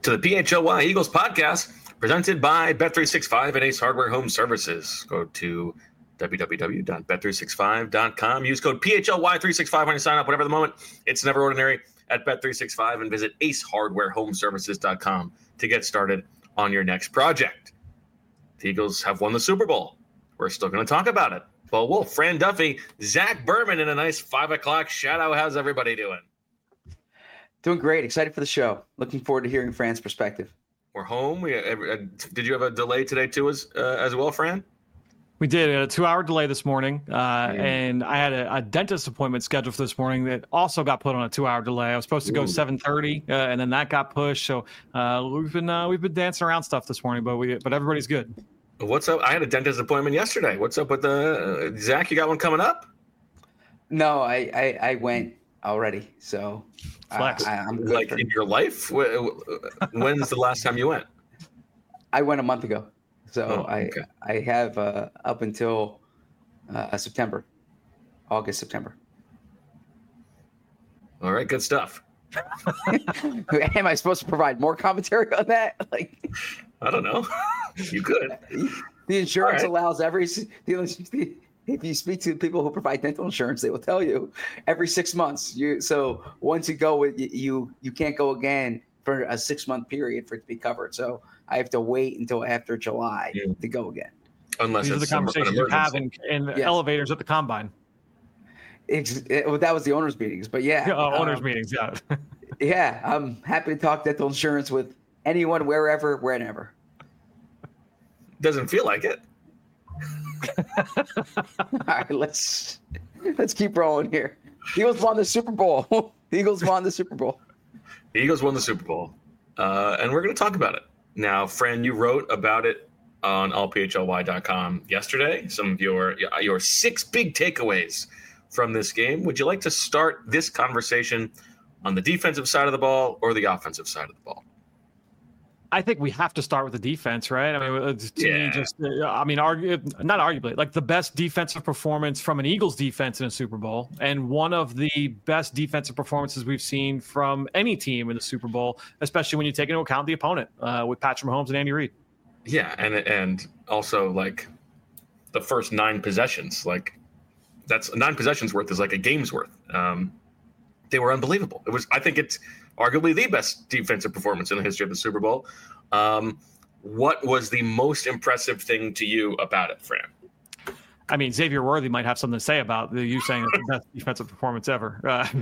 to the PHLY Eagles podcast presented by Bet365 and Ace Hardware Home Services. Go to www.bet365.com. Use code PHLY365 when you sign up. Whatever the moment, it's never ordinary at Bet365, and visit acehardwarehomeservices.com to get started on your next project. The Eagles have won the Super Bowl. We're still going to talk about it. Bo Wolf, Fran Duffy, Zach Berman in a nice 5 o'clock shadow. How's everybody doing? Doing great. Excited for the show. Looking forward to hearing Fran's perspective. We're home. Did you have a delay today too as well, Fran? We did. A 2-hour delay this morning, and I had a dentist appointment scheduled for this morning that also got put on a 2-hour delay. I was supposed to go 7:30, and then that got pushed. So we've been dancing around stuff this morning, but everybody's good. What's up? I had a dentist appointment yesterday. What's up with the Zach? You got one coming up? No, I went already. So I'm good. Like in your life? When's the last time you went? I went a month ago. So okay. I have up until September, August, September. All right, good stuff. Am I supposed to provide more commentary on that? I don't know. You could. The insurance allows if you speak to people who provide dental insurance, they will tell you every 6 months. So once you go, you can't go again for a 6-month period for it to be covered. So I have to wait until after July to go again. Unless these are the conversations you have in elevators at the combine. That was the owners' meetings, but owners' meetings, yeah. Yeah, I'm happy to talk dental insurance with anyone, wherever, whenever. Doesn't feel like it. All right, let's keep rolling here. Eagles won the Super Bowl. The Eagles won the Super Bowl. The Eagles won the Super Bowl, and we're going to talk about it. Now, Fran, you wrote about it on allphly.com yesterday, some of your 6 big takeaways from this game. Would you like to start this conversation on the defensive side of the ball or the offensive side of the ball? I think we have to start with the defense, right? I mean, not arguably, like the best defensive performance from an Eagles defense in a Super Bowl, and one of the best defensive performances we've seen from any team in the Super Bowl, especially when you take into account the opponent with Patrick Mahomes and Andy Reid. Yeah, and also like the first 9 possessions, like that's 9 possessions worth is like a game's worth. They were unbelievable. I think it's arguably the best defensive performance in the history of the Super Bowl. What was the most impressive thing to you about it, Fran? I mean, Xavier Worthy might have something to say about you saying it's the best defensive performance ever.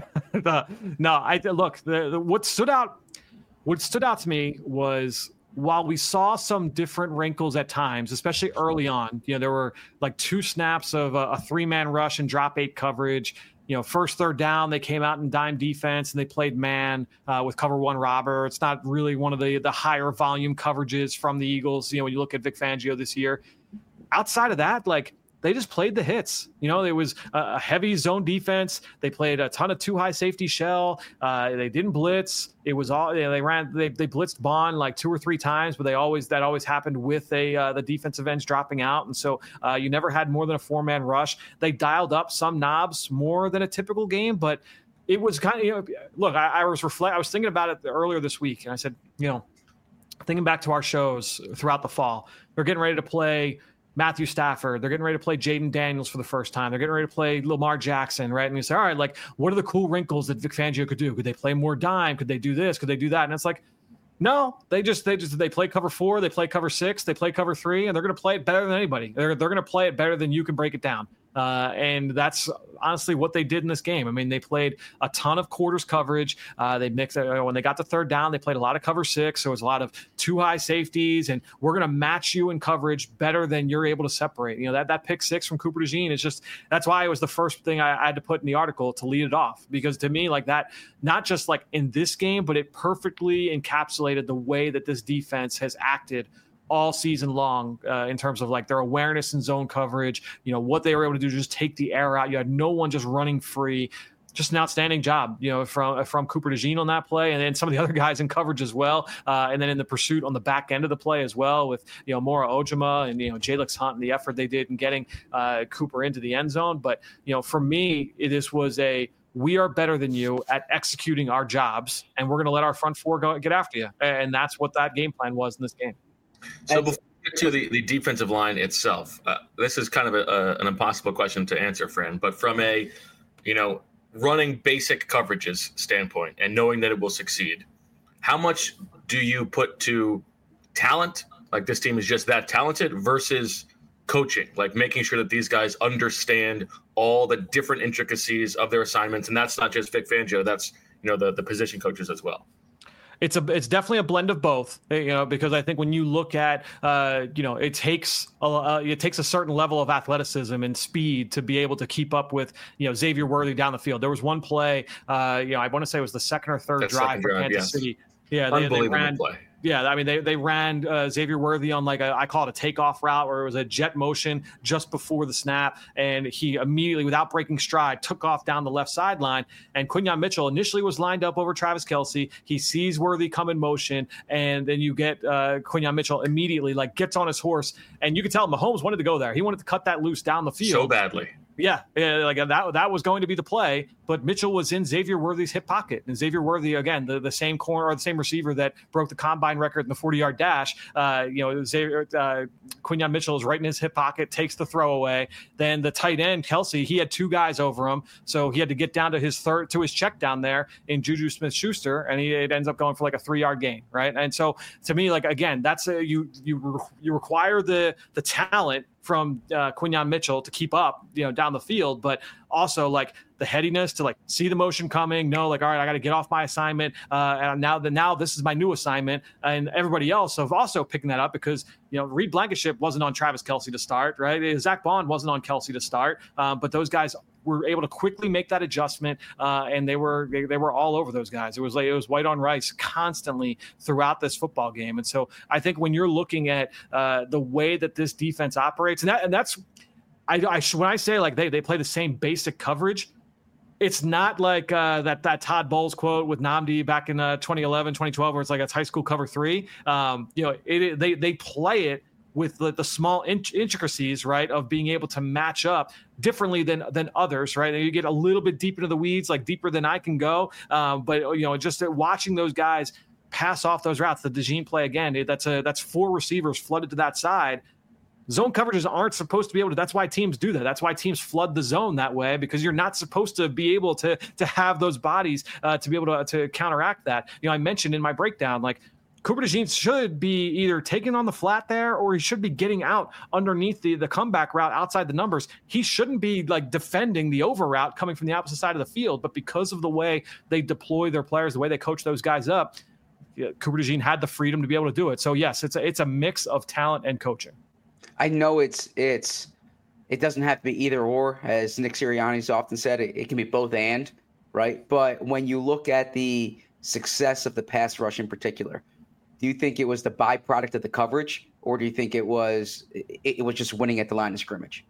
What stood out to me was, while we saw some different wrinkles at times, especially early on, there were like 2 snaps of a 3-man rush and drop 8 coverage. First, third down, they came out in dime defense and they played man with cover 1 robber. It's not really one of the higher volume coverages from the Eagles. When you look at Vic Fangio this year, outside of that, they just played the hits. There was a heavy zone defense. They played a ton of 2 high safety shell. They didn't blitz. It was all they blitzed Bond like 2 or 3 times, but that always happened with the defensive ends dropping out, and so you never had more than a 4-man rush. They dialed up some knobs more than a typical game, but it was kind of look. I was thinking about it earlier this week, and I said, thinking back to our shows throughout the fall, they're getting ready to play Matthew Stafford. They're getting ready to play Jaden Daniels for the first time. They're getting ready to play Lamar Jackson, right? And you say, all right, what are the cool wrinkles that Vic Fangio could do? Could they play more dime? Could they do this? Could they do that? And it's like, no, they play cover 4, they play cover 6, they play cover 3, and they're going to play it better than anybody. They're going to play it better than you can break it down. And that's honestly what they did in this game. I mean, they played a ton of quarters coverage. They mixed when they got to third down, they played a lot of cover 6. So it was a lot of 2 high safeties, and we're going to match you in coverage better than you're able to separate. That pick 6 from Cooper DeJean is just, that's why it was the first thing I had to put in the article to lead it off, because to me, like that, not just like in this game, but it perfectly encapsulated the way that this defense has acted all season long in terms of like their awareness and zone coverage, what they were able to do to just take the air out. You had no one just running free. Just an outstanding job, from Cooper DeJean on that play, and then some of the other guys in coverage as well, and then in the pursuit on the back end of the play as well with Mora Ojima and Jalix Hunt and the effort they did in getting Cooper into the end zone. But for me, this was a we are better than you at executing our jobs, and we're going to let our front four go get after you. And that's what that game plan was in this game. So before we get to the defensive line itself, this is kind of an impossible question to answer, Fran, but from a, running basic coverages standpoint and knowing that it will succeed, how much do you put to talent, like this team is just that talented, versus coaching, like making sure that these guys understand all the different intricacies of their assignments? And that's not just Vic Fangio, that's the position coaches as well. It's definitely a blend of both, because I think when you look at, it takes a certain level of athleticism and speed to be able to keep up with, Xavier Worthy down the field. There was one play, I want to say it was the second or third drive for Kansas City. Yeah, unbelievable play. Yeah, I mean, they ran Xavier Worthy on I call it a takeoff route, where it was a jet motion just before the snap, and he immediately, without breaking stride, took off down the left sideline. And Quinyon Mitchell initially was lined up over Travis Kelce. He sees Worthy come in motion, and then you get Quinyon Mitchell immediately gets on his horse, and you could tell Mahomes wanted to go there. He wanted to cut that loose down the field so badly. Yeah, that was going to be the play, but Mitchell was in Xavier Worthy's hip pocket, and Xavier Worthy, again, the same corner or the same receiver that broke the combine record in the 40-yard dash. Quinyon Mitchell is right in his hip pocket, takes the throw away. Then the tight end Kelce, he had two guys over him, so he had to get down to his check down there in Juju Smith-Schuster, and it ends up going for a 3-yard gain, right? And so to me, again, that's you require the talent from Quinyon Mitchell to keep up, down the field, but also the headiness to see the motion coming, know all right, I got to get off my assignment, and now this is my new assignment, and everybody else have also picking that up because Reed Blankenship wasn't on Travis Kelce to start, right? Zach Bond wasn't on Kelce to start, but those guys were able to quickly make that adjustment, and they were all over those guys. It was white on rice constantly throughout this football game, and so I think when you're looking at the way that this defense operates, and that's when I say they play the same basic coverage, it's not like that Todd Bowles quote with Nnamdi back in 2011, 2012, where it's it's high school cover 3. They play it with the small intricacies, right, of being able to match up differently than others, right? And you get a little bit deep into the weeds, deeper than I can go. But just watching those guys pass off those routes, the DeJean play again, that's 4 receivers flooded to that side. Zone coverages aren't supposed to be able to. That's why teams do that. That's why teams flood the zone that way, because you're not supposed to be able to have those bodies to be able to counteract that. I mentioned in my breakdown, Cooper DeJean should be either taking on the flat there, or he should be getting out underneath the comeback route outside the numbers. He shouldn't be defending the over route coming from the opposite side of the field. But because of the way they deploy their players, the way they coach those guys up, Cooper DeJean had the freedom to be able to do it. So yes, it's a mix of talent and coaching. I know it doesn't have to be either or, as Nick Sirianni's often said. It can be both and, right? But when you look at the success of the pass rush in particular, do you think it was the byproduct of the coverage, or do you think it was just winning at the line of scrimmage?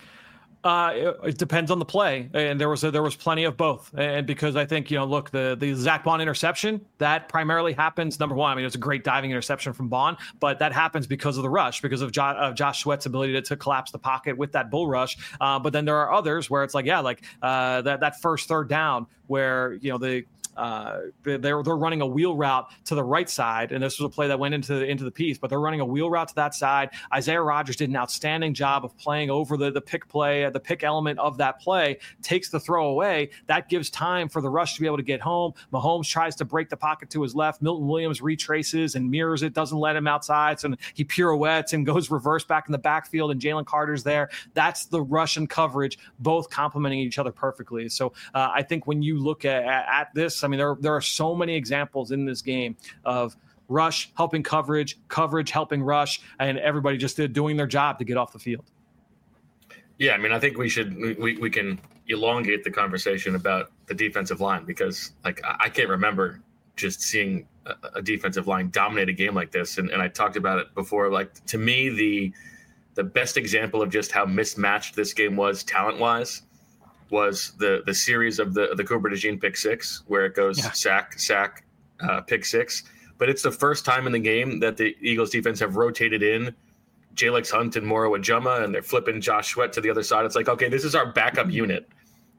It depends on the play, and there was plenty of both. And because I think look, the Zach Bond interception, that primarily happens. Number one, I mean, it was a great diving interception from Bond, but that happens because of the rush, because of Josh Sweat's ability to collapse the pocket with that bull rush. But then there are others where it's that first third down where they're running a wheel route to the right side, and this was a play that went into the piece, but they're running a wheel route to that side. Isaiah Rodgers did an outstanding job of playing over the pick play, the pick element of that play, takes the throw away. That gives time for the rush to be able to get home. Mahomes tries to break the pocket to his left. Milton Williams retraces and mirrors it, doesn't let him outside, so he pirouettes and goes reverse back in the backfield, and Jalen Carter's there. That's the rush and coverage, both complementing each other perfectly. So I think when you look at this, I mean, there are so many examples in this game of rush helping coverage helping rush, and everybody just doing their job to get off the field. Yeah, I mean, I think we can elongate the conversation about the defensive line, because I can't remember just seeing a defensive line dominate a game like this. And I talked about it before. To me, the best example of just how mismatched this game was talent-wise was the series of the Cooper DeJean pick six, where it goes sack, pick six. But it's the first time in the game that the Eagles defense have rotated in Jalex Hunt and Moro Ajuma, and they're flipping Josh Sweat to the other side. It's okay, this is our backup unit.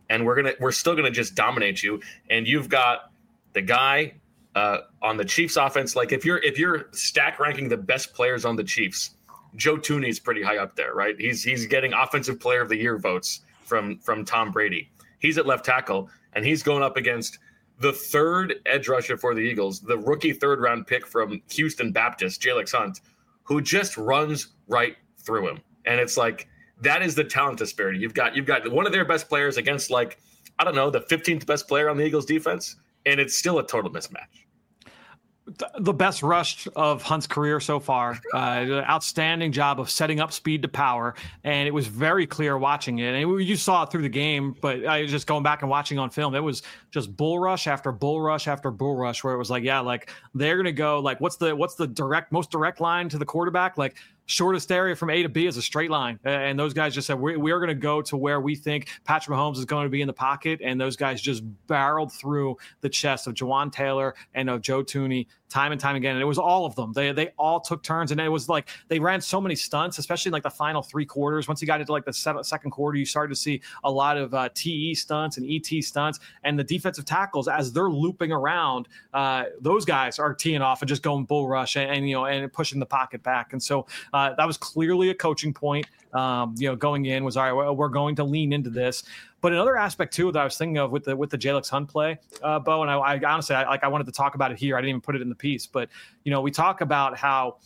and we're still gonna just dominate you. And you've got the guy on the Chiefs offense. Like if you're stack ranking the best players on the Chiefs, Joe Thuney is pretty high up there, right? He's getting Offensive Player of the Year votes from Tom Brady. He's at left tackle, and he's going up against the third edge rusher for the Eagles, the rookie third-round pick from Houston Baptist, Jalen Hunt, who just runs right through him. And it's like that is the talent disparity. You've got one of their best players against, like, I don't know, the 15th best player on the Eagles defense, and it's still a total mismatch. The best rush of Hunt's career so far. Outstanding job of setting up speed to power, and it was very clear watching it. And you saw it through the game, but I was just going back and watching on film. It was just bull rush after bull rush after bull rush, where it was like, yeah, like they're gonna go like, what's the most direct line to the quarterback? Like, shortest area from A to B is a straight line. And those guys just said, we are going to go to where we think Patrick Mahomes is going to be in the pocket. And those guys just barreled through the chest of Jawan Taylor and of Joe Thuney time and time again. And it was all of them. They all took turns. And it was like they ran so many stunts, especially in like the final three quarters. Once you got into like the second quarter, you started to see a lot of TE stunts and ET stunts. And the defensive tackles, as they're looping around, those guys are teeing off and just going bull rush and pushing the pocket back. And so that was clearly a coaching point, going in was, all right, we're going to lean into this. But another aspect too that I was thinking of with the Jalen Hunt play, Bo, and I honestly, I wanted to talk about it here. I didn't even put it in the piece, but we talk about how,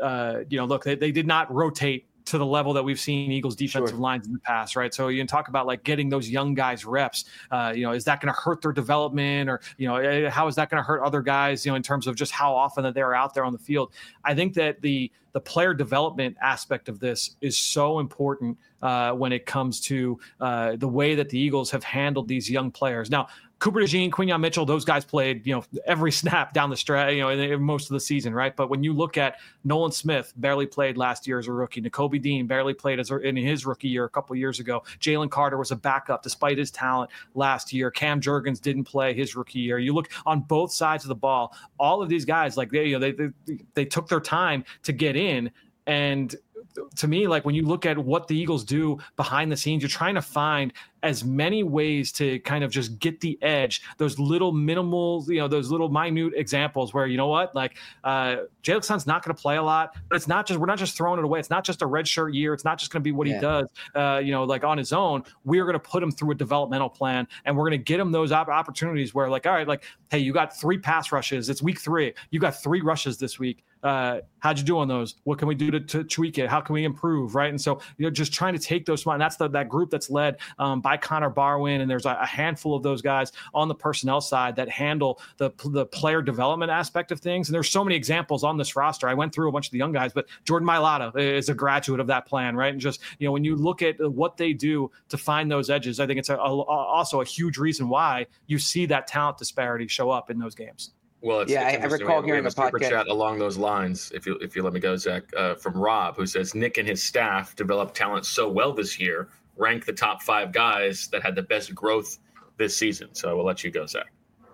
look, they did not rotate to the level that we've seen Eagles defensive lines in the past, right? So you can talk about like getting those young guys reps. Is that going to hurt their development, or how is that going to hurt other guys? In terms of just how often that they're out there on the field. I think that the player development aspect of this is so important when it comes to the way that the Eagles have handled these young players. Now, Cooper DeJean, Quinyon Mitchell, those guys played, every snap down the stretch, in most of the season, right? But when you look at Nolan Smith, barely played last year as a rookie. Nakobe Dean barely played in his rookie year a couple of years ago. Jalen Carter was a backup despite his talent last year. Cam Jurgens didn't play his rookie year. You look on both sides of the ball, all of these guys, like they took their time to get in. And to me, like when you look at what the Eagles do behind the scenes, you're trying to find as many ways to kind of just get the edge, those little minimal, those little minute examples where, like Jalen Hunt's not going to play a lot, but we're not just throwing it away. It's not just a red shirt year. It's not just going to be what he does, like on his own. We're going to put him through a developmental plan, and we're going to get him those opportunities where, like, all right, like, hey, you got 3 pass rushes. It's week 3. You got 3 rushes this week. How'd you do on those? What can we do to tweak it? How can we improve? Right. And so, just trying to take those, and that's that group that's led by Connor Barwin. And there's a handful of those guys on the personnel side that handle the player development aspect of things. And there's so many examples on this roster. I went through a bunch of the young guys, but Jordan Mailata is a graduate of that plan. Right. And just, when you look at what they do to find those edges, I think it's also a huge reason why you see that talent disparity show up in those games. Well, I recall hearing a super podcast chat along those lines. If you let me go, Zach, from Rob, who says Nick and his staff developed talent so well this year, ranked the top 5 guys that had the best growth this season. So I will let you go, Zach.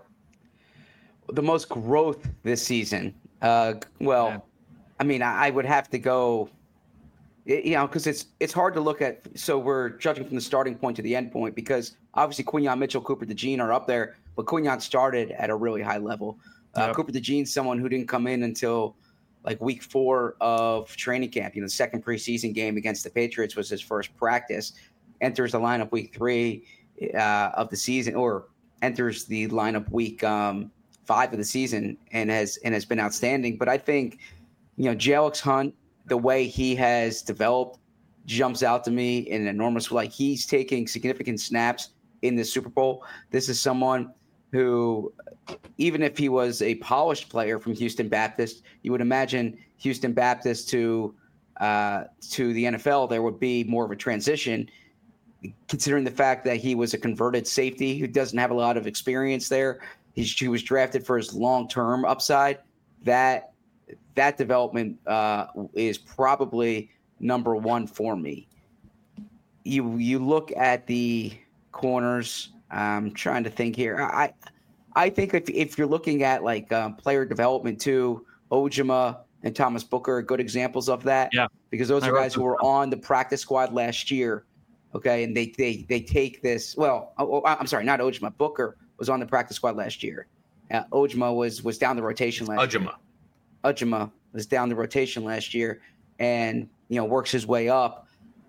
The most growth this season. I mean, I would have to go. Because it's hard to look at. So we're judging from the starting point to the end point, because obviously Quinyon Mitchell, Cooper DeJean are up there, but Quinyon started at a really high level. Cooper DeJean's someone who didn't come in until like week 4 of training camp. The second preseason game against the Patriots was his first practice. Enters the lineup week 3 of the season, or enters the lineup week 5 of the season, and has been outstanding. But I think Jalen Hunt, the way he has developed, jumps out to me in an enormous way. Like, he's taking significant snaps in the Super Bowl. This is someone who, even if he was a polished player from Houston Baptist, you would imagine Houston Baptist to the NFL, there would be more of a transition, considering the fact that he was a converted safety who doesn't have a lot of experience there. He was drafted for his long-term upside. That development is probably number 1 for me. You look at the corners. I'm trying to think here. I think if you're looking at like player development too, Ojima and Thomas Booker are good examples of that. Yeah, because those are guys who were on the practice squad last year Okay, and they take this. Well, I'm sorry, not Ojima. Booker was on the practice squad last year. Ojima was down the rotation last year. Ojima was down the rotation last year, and works his way up.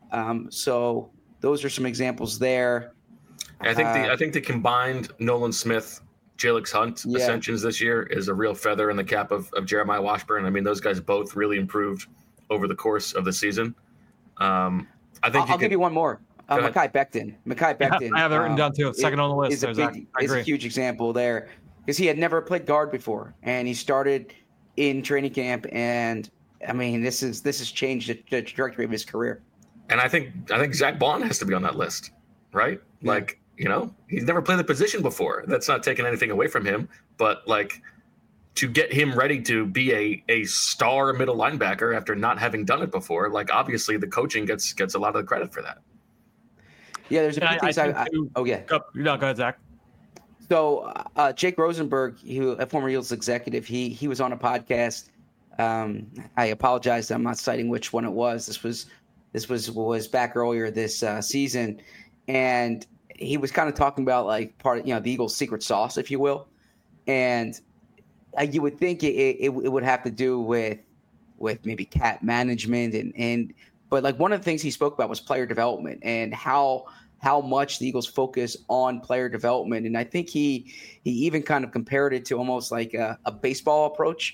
So those are some examples there. I think the combined Nolan Smith, Jalix Hunt ascensions this year is a real feather in the cap of Jeremiah Washburn. I mean, those guys both really improved over the course of the season. I'll give you one more. Mekhi Becton. Yeah, I have it written down too. Second on the list. Is a huge example there because he had never played guard before, and he started in training camp. And I mean, this has changed the trajectory of his career. And I think Zach Bond has to be on that list, right? Yeah. Like, he's never played the position before. That's not taking anything away from him, but like to get him ready to be a star middle linebacker after not having done it before, like obviously the coaching gets a lot of the credit for that. Yeah, there's a few things go ahead, Zach. So Jake Rosenberg, a former Eagles executive, he was on a podcast. I apologize, I'm not citing which one it was. This was back earlier this season, and he was kind of talking about like part of the Eagles' secret sauce, if you will, and you would think it would have to do with maybe cap management but like one of the things he spoke about was player development and how much the Eagles focus on player development. And I think he even kind of compared it to almost like a baseball approach.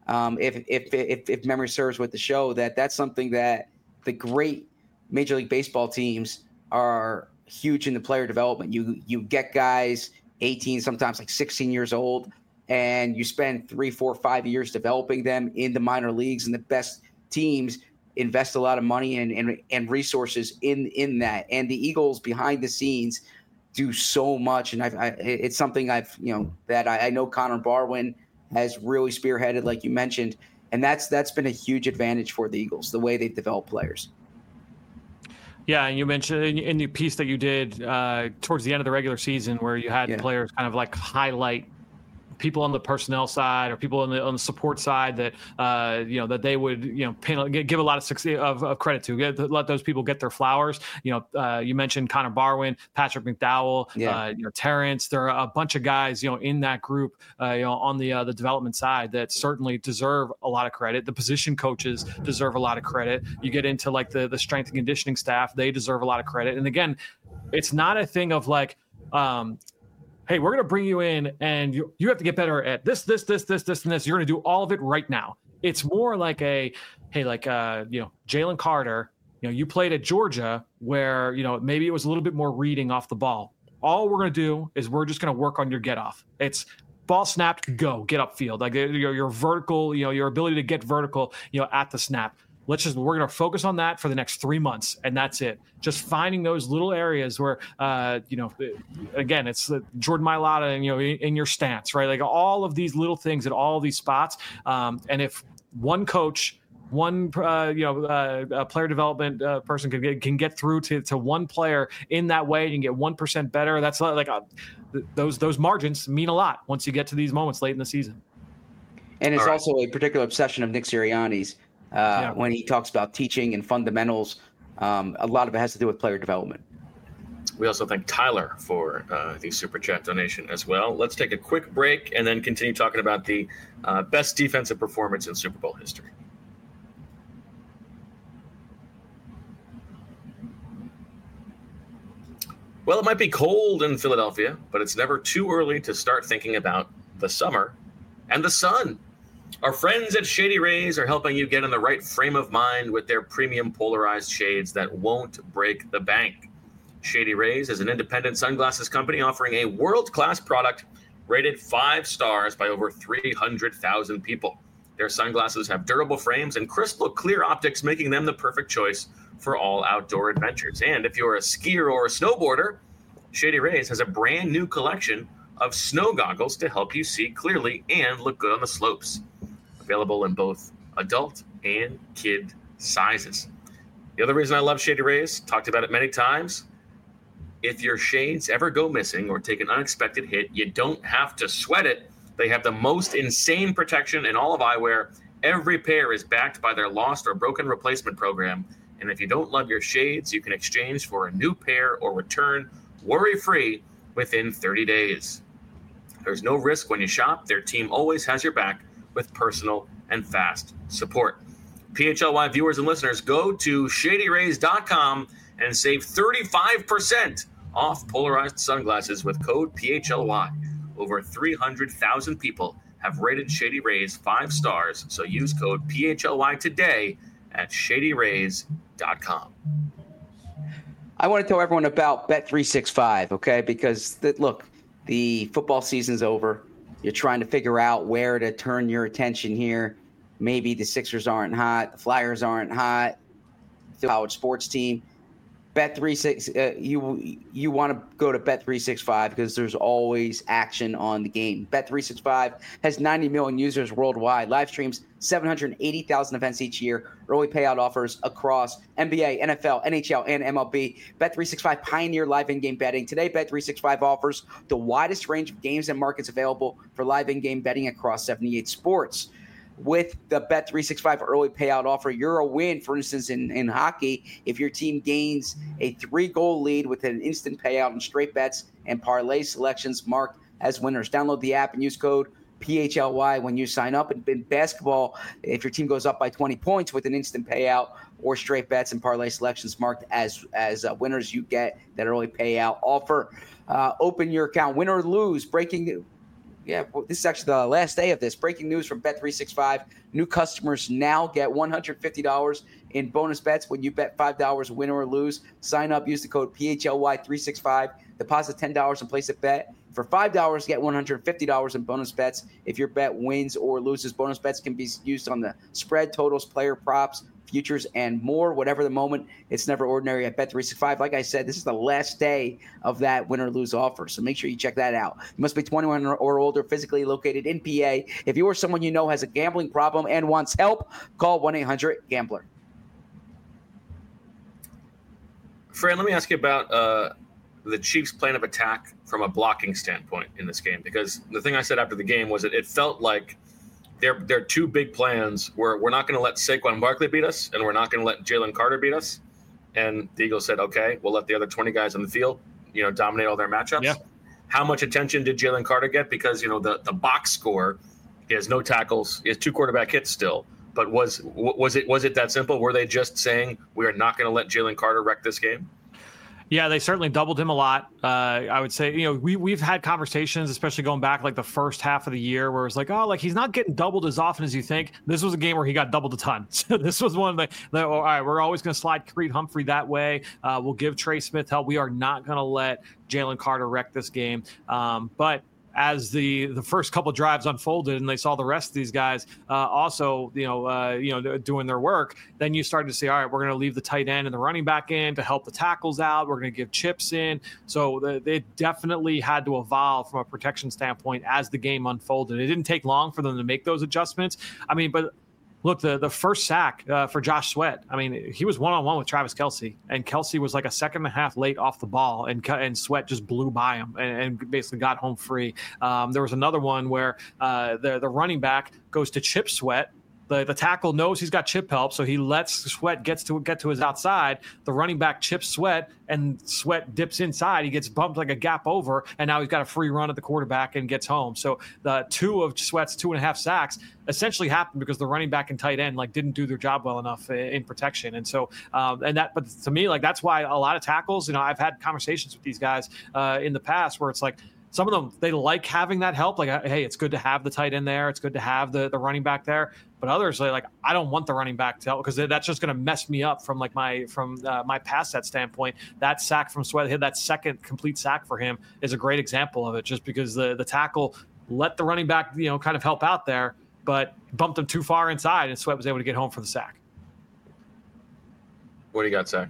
If memory serves with the show, that's something that the great Major League Baseball teams are huge in the player development. You get guys 18, sometimes like 16 years old, and you spend 3, 4, 5 years developing them in the minor leagues, and the best teams invest a lot of money and resources in that. And the Eagles behind the scenes do so much. And it's something that I know Connor Barwin has really spearheaded, like you mentioned. And that's been a huge advantage for the Eagles, the way they develop players. Yeah, and you mentioned in the piece that you did towards the end of the regular season where you had players kind of like highlight people on the personnel side or people on the support side that that they would give a lot of credit to, let those people get their flowers. You mentioned Connor Barwin, Patrick McDowell, Terrence. There are a bunch of guys in that group on the development side that certainly deserve a lot of credit. The position coaches deserve a lot of credit. You get into like the strength and conditioning staff; they deserve a lot of credit. And again, it's not a thing of like, hey, we're going to bring you in and you have to get better at this, and this. You're going to do all of it right now. It's more like Jalen Carter, you played at Georgia where, maybe it was a little bit more reading off the ball. All we're going to do is we're just going to work on your get off. It's ball snapped, go, get upfield. Like your vertical, your ability to get vertical, at the snap. We're going to focus on that for the next 3 months, and that's it. Just finding those little areas where, again, it's Jordan Mailata, in your stance, right? Like all of these little things at all of these spots. And if one coach, one player development person can get through to one player in that way and get 1% better, that's like those margins mean a lot once you get to these moments late in the season. And it's also a particular obsession of Nick Sirianni's. When he talks about teaching and fundamentals, a lot of it has to do with player development. We also thank Tyler for the Super Chat donation as well. Let's take a quick break and then continue talking about the best defensive performance in Super Bowl history. Well, it might be cold in Philadelphia, but it's never too early to start thinking about the summer and the sun. Our friends at Shady Rays are helping you get in the right frame of mind with their premium polarized shades that won't break the bank. Shady Rays is an independent sunglasses company offering a world-class product rated 5 stars by over 300,000 people. Their sunglasses have durable frames and crystal clear optics, making them the perfect choice for all outdoor adventures. And if you're a skier or a snowboarder, Shady Rays has a brand new collection of snow goggles to help you see clearly and look good on the slopes. Available in both adult and kid sizes. The other reason I love Shady Rays, talked about it many times, if your shades ever go missing or take an unexpected hit, you don't have to sweat it. They have the most insane protection in all of eyewear. Every pair is backed by their lost or broken replacement program, And if you don't love your shades, you can exchange for a new pair or return worry-free within 30 days. There's no risk when you shop. Their team always has your back with personal and fast support. PHLY viewers and listeners, go to ShadyRays.com and save 35% off polarized sunglasses with code PHLY. Over 300,000 people have rated Shady Rays 5 stars, so use code PHLY today at ShadyRays.com. I want to tell everyone about Bet365, okay? Because, look, the football season's over. You're trying to figure out where to turn your attention here. Maybe the Sixers aren't hot. The Flyers aren't hot. The college sports team. You want to go to Bet365 because there's always action on the game. Bet365 has 90 million users worldwide, live streams 780,000 events each year, early payout offers across NBA, NFL, NHL, and MLB. Bet365 pioneer live in-game betting. Today, Bet365 offers the widest range of games and markets available for live in-game betting across 78 sports. With the Bet365 early payout offer, you're a win. For instance, in hockey, if your team gains a 3-goal lead with an instant payout in straight bets and parlay selections marked as winners. Download the app and use code PHLY when you sign up. And in basketball, if your team goes up by 20 points with an instant payout or straight bets and parlay selections marked as winners, you get that early payout offer. Open your account, win or lose. This is actually the last day of this. Breaking news from Bet365. New customers now get $150 in bonus bets when you bet $5 win or lose. Sign up, use the code PHLY365. Deposit $10 and place a bet. For $5, get $150 in bonus bets if your bet wins or loses. Bonus bets can be used on the spread, totals, player props, futures, and more. Whatever the moment, it's never ordinary at Bet365. Like I said, this is the last day of that win or lose offer, so make sure you check that out. You must be 21 or older, physically located in PA. If you or someone you know has a gambling problem and wants help, call 1-800-GAMBLER. Fran, let me ask you about the Chiefs' plan of attack from a blocking standpoint in this game, because the thing I said after the game was that it felt like their two big plans were, we're not going to let Saquon Barkley beat us, and we're not going to let Jalen Carter beat us. And the Eagles said, okay, we'll let the other 20 guys on the field, dominate all their matchups. Yeah. How much attention did Jalen Carter get? Because, the box score, he has no tackles. He has 2 quarterback hits still. But was it that simple? Were they just saying we are not going to let Jalen Carter wreck this game? Yeah, they certainly doubled him a lot. I would say, we've had conversations, especially going back like the first half of the year, where it's like, he's not getting doubled as often as you think. This was a game where he got doubled a ton. So this was one of the all right, we're always going to slide Creed Humphrey that way. We'll give Trey Smith help. We are not going to let Jalen Carter wreck this game. But as the first couple of drives unfolded and they saw the rest of these guys also doing their work, then you started to say, all right, we're going to leave the tight end and the running back in to help the tackles out. We're going to give chips in. So they definitely had to evolve from a protection standpoint as the game unfolded. It didn't take long for them to make those adjustments. But look, the first sack for Josh Sweat, he was one-on-one with Travis Kelce, and Kelce was like a second and a half late off the ball, and Sweat just blew by him and basically got home free. There was another one where the running back goes to chip Sweat. The tackle knows he's got chip help, so he lets Sweat get to his outside. The running back chips Sweat, and Sweat dips inside. He gets bumped like a gap over, and now he's got a free run at the quarterback and gets home. So the 2 of Sweat's 2.5 sacks essentially happened because the running back and tight end didn't do their job well enough in protection. And so but to me, that's why a lot of tackles, I've had conversations with these guys in the past where it's like, some of them, they like having that help. Hey, it's good to have the tight end there. It's good to have the running back there. But others, I don't want the running back to help because that's just going to mess me up from my pass set standpoint. That sack from Sweat, that second complete sack for him is a great example of it, just because the tackle let the running back, kind of help out there, but bumped him too far inside, and Sweat was able to get home for the sack. What do you got, Zach?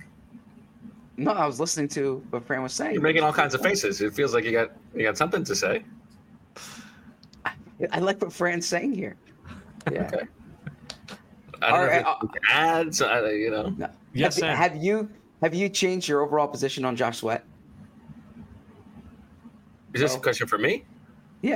No, I was listening to what Fran was saying. You're making all kinds of faces. It feels like you got something to say. I like what Fran's saying here. Yeah. Okay. I don't know if ads, No. Yes. Have you changed your overall position on Josh Sweat? Is this a question for me? Yeah.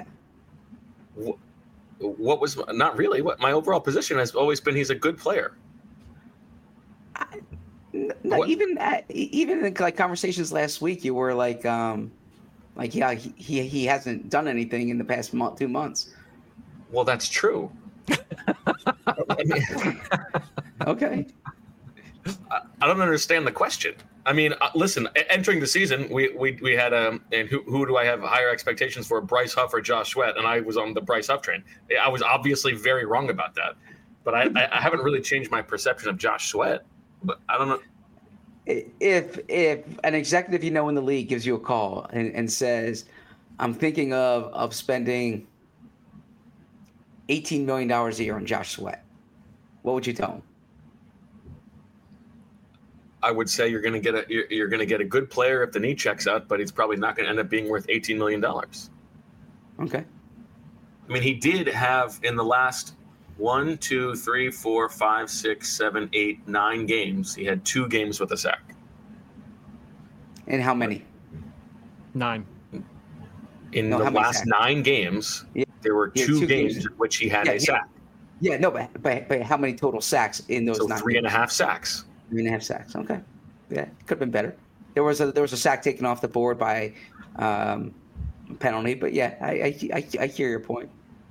What was not really what my overall position has always been? He's a good player. No, even in like conversations last week, you were like yeah, he hasn't done anything in the past 2 months. Well, that's true. Okay. I don't understand the question. I mean, listen, entering the season, we had and who do I have higher expectations for, Bryce Huff or Josh Sweat? And I was on the Bryce Huff train. I was obviously very wrong about that, but I haven't really changed my perception of Josh Sweat. But I don't know. If an executive in the league gives you a call and says, I'm thinking of spending $18 million a year on Josh Sweat, what would you tell him? I would say you're going to get a good player if the knee checks out, but he's probably not going to end up being worth $18 million. Okay. I mean, he did have in the last 1, 2, 3, 4, 5, 6, 7, 8, 9 games. He had 2 games with a sack. And how many? 9. In the last sacks? 9 games, there were 2 games in which he had a sack. Yeah, no, but how many total sacks in those 9 games? 3.5 sacks. 3.5 sacks. Okay. Yeah, could have been better. There was a sack taken off the board by penalty, but yeah, I hear your point.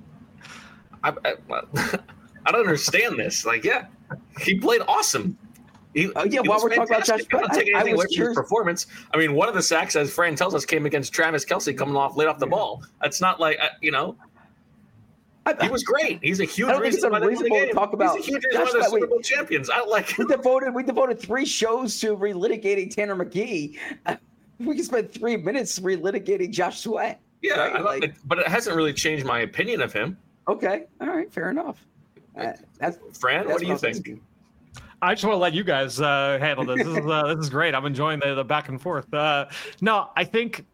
I don't understand this. Like, yeah, he played awesome. While we're talking about Josh, I don't take anything away from his performance. I mean, one of the sacks, as Fran tells us, came against Travis Kelce coming late off the ball. That's not like he was great. He's a huge reason why they talk about. He's a huge reason why they're Super Bowl champions. I don't like. We devoted 3 shows to relitigating Tanner McGee. We can spend 3 minutes relitigating Josh Sweat. Yeah, right? But it hasn't really changed my opinion of him. Okay, all right, fair enough. Fran, what do you think? I just want to let you guys handle this. This is great. I'm enjoying the back and forth. No, I think.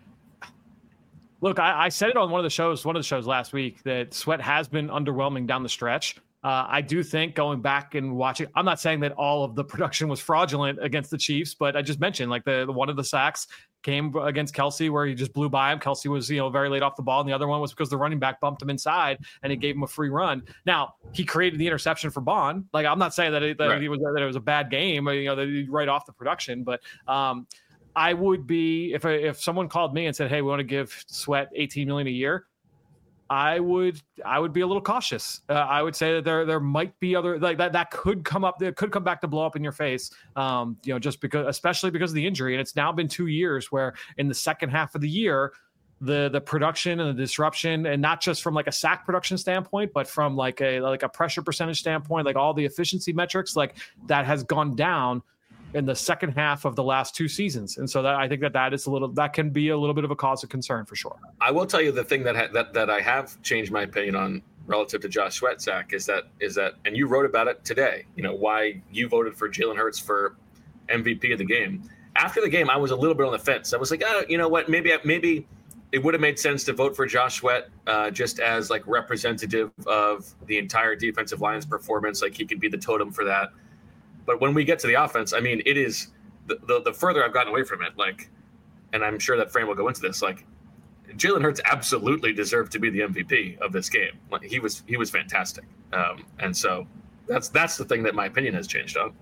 Look, I said it on one of the shows last week that Sweat has been underwhelming down the stretch. I do think going back and watching, I'm not saying that all of the production was fraudulent against the Chiefs, but I just mentioned like the one of the sacks came against Kelce where he just blew by him. Kelce was, very late off the ball. And the other one was because the running back bumped him inside and it gave him a free run. Now he created the interception for Bond. Like, I'm not saying that it was a bad game, that right off the production, but, I would be if someone called me and said, "Hey, we want to give Sweat $18 million a year," I would be a little cautious. I would say that there might be other like that could come up. That could come back to blow up in your face. Just because, especially because of the injury, and it's now been 2 years where in the second half of the year, the production and the disruption, and not just from like a sack production standpoint, but from like a pressure percentage standpoint, like all the efficiency metrics, like that has gone down in the second half of the last 2 seasons. And so I think that can be a little bit of a cause of concern for sure. I will tell you the thing that I have changed my opinion on relative to Josh Sweat, Zach, is that, and you wrote about it today, why you voted for Jalen Hurts for MVP of the game. After the game, I was a little bit on the fence. I was like, you know what, maybe it would have made sense to vote for Josh Sweat just as like representative of the entire defensive line's performance. Like he could be the totem for that. But when we get to the offense, I mean, it is the further I've gotten away from it, like, and I'm sure that Fran will go into this, like, Jalen Hurts absolutely deserved to be the MVP of this game. Like, he was fantastic. And so that's the thing that my opinion has changed on.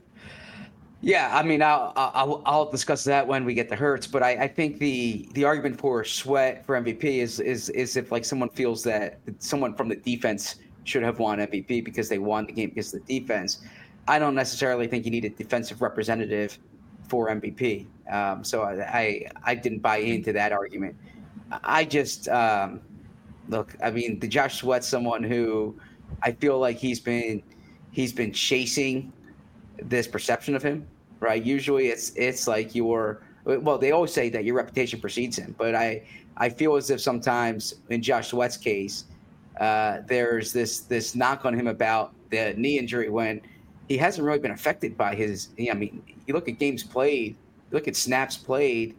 Yeah, I mean, I'll discuss that when we get to Hurts, but I think the argument for Sweat for MVP is if like someone feels that someone from the defense should have won MVP because they won the game because of the defense. I don't necessarily think you need a defensive representative for MVP. So I didn't buy into that argument. I just look. I mean, the Josh Sweat's someone who I feel like he's been chasing this perception of him, right? Usually it's like they always say that your reputation precedes him, but I feel as if sometimes in Josh Sweat's case, there's this knock on him about the knee injury when he hasn't really been affected by his. I mean, you look at games played, you look at snaps played.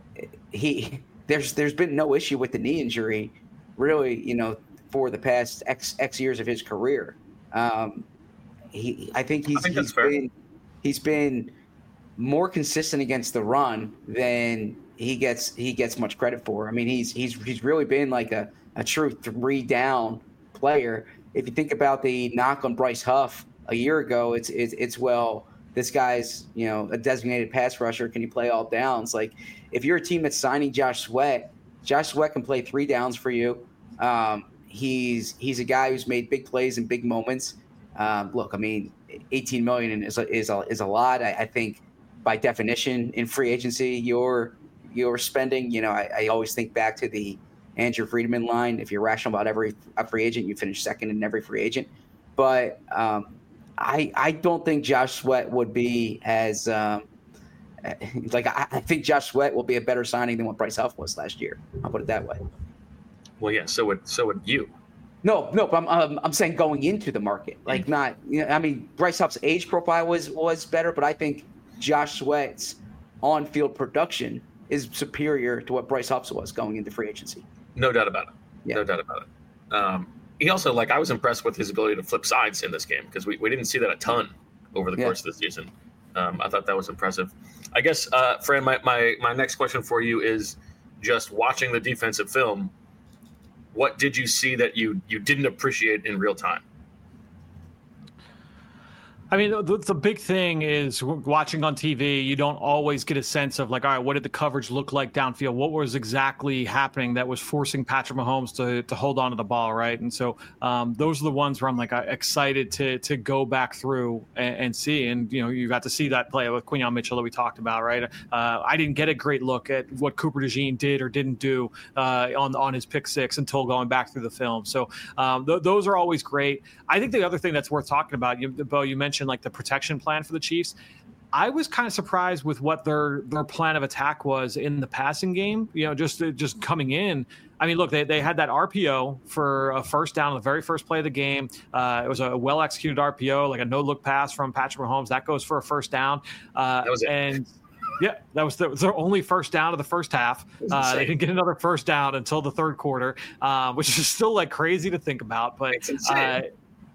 There's been no issue with the knee injury, really. For the past X years of his career. I think he's been more consistent against the run than he gets much credit for. I mean, he's really been like a true 3-down player. If you think about the knock on Bryce Huff a year ago, it's this guy's, a designated pass rusher. Can he play all downs? Like, if you're a team that's signing Josh Sweat can play 3 downs for you. He's a guy who's made big plays in big moments. Look, I mean, $18 million is a lot. I think by definition in free agency, you're spending. I always think back to the Andrew Friedman line. If you're rational about every free agent, you finish second in every free agent. But I don't think Josh Sweat would be as I think Josh Sweat will be a better signing than what Bryce Huff was last year. I'll put it that way. Well, yeah. So would you. No. But I'm saying going into the market, like not. I mean, Bryce Huff's age profile was better, but I think Josh Sweat's on-field production is superior to what Bryce Huff's was going into free agency. No doubt about it. Yeah. No doubt about it. He also, I was impressed with his ability to flip sides in this game because we didn't see that a ton over the course of the season. I thought that was impressive. I guess, Fran, my next question for you is just watching the defensive film. What did you see that you didn't appreciate in real time? I mean, the big thing is watching on TV, you don't always get a sense of all right, what did the coverage look like downfield? What was exactly happening that was forcing Patrick Mahomes to hold on to the ball, right? And so those are the ones where I'm excited to go back through and see. And, you got to see that play with Quinyon Mitchell that we talked about, right? I didn't get a great look at what Cooper DeJean did or didn't do on his pick six until going back through the film. So those are always great. I think the other thing that's worth talking about, Bo, you mentioned the protection plan for the Chiefs. I was kind of surprised with what their plan of attack was in the passing game. Just coming in. I mean, look, they had that RPO for a first down on the very first play of the game. It was a well executed RPO, a no look pass from Patrick Mahomes that goes for a first down. That was it. And yeah, that was their only first down of the first half. They didn't get another first down until the third quarter, which is still crazy to think about. But it's insane.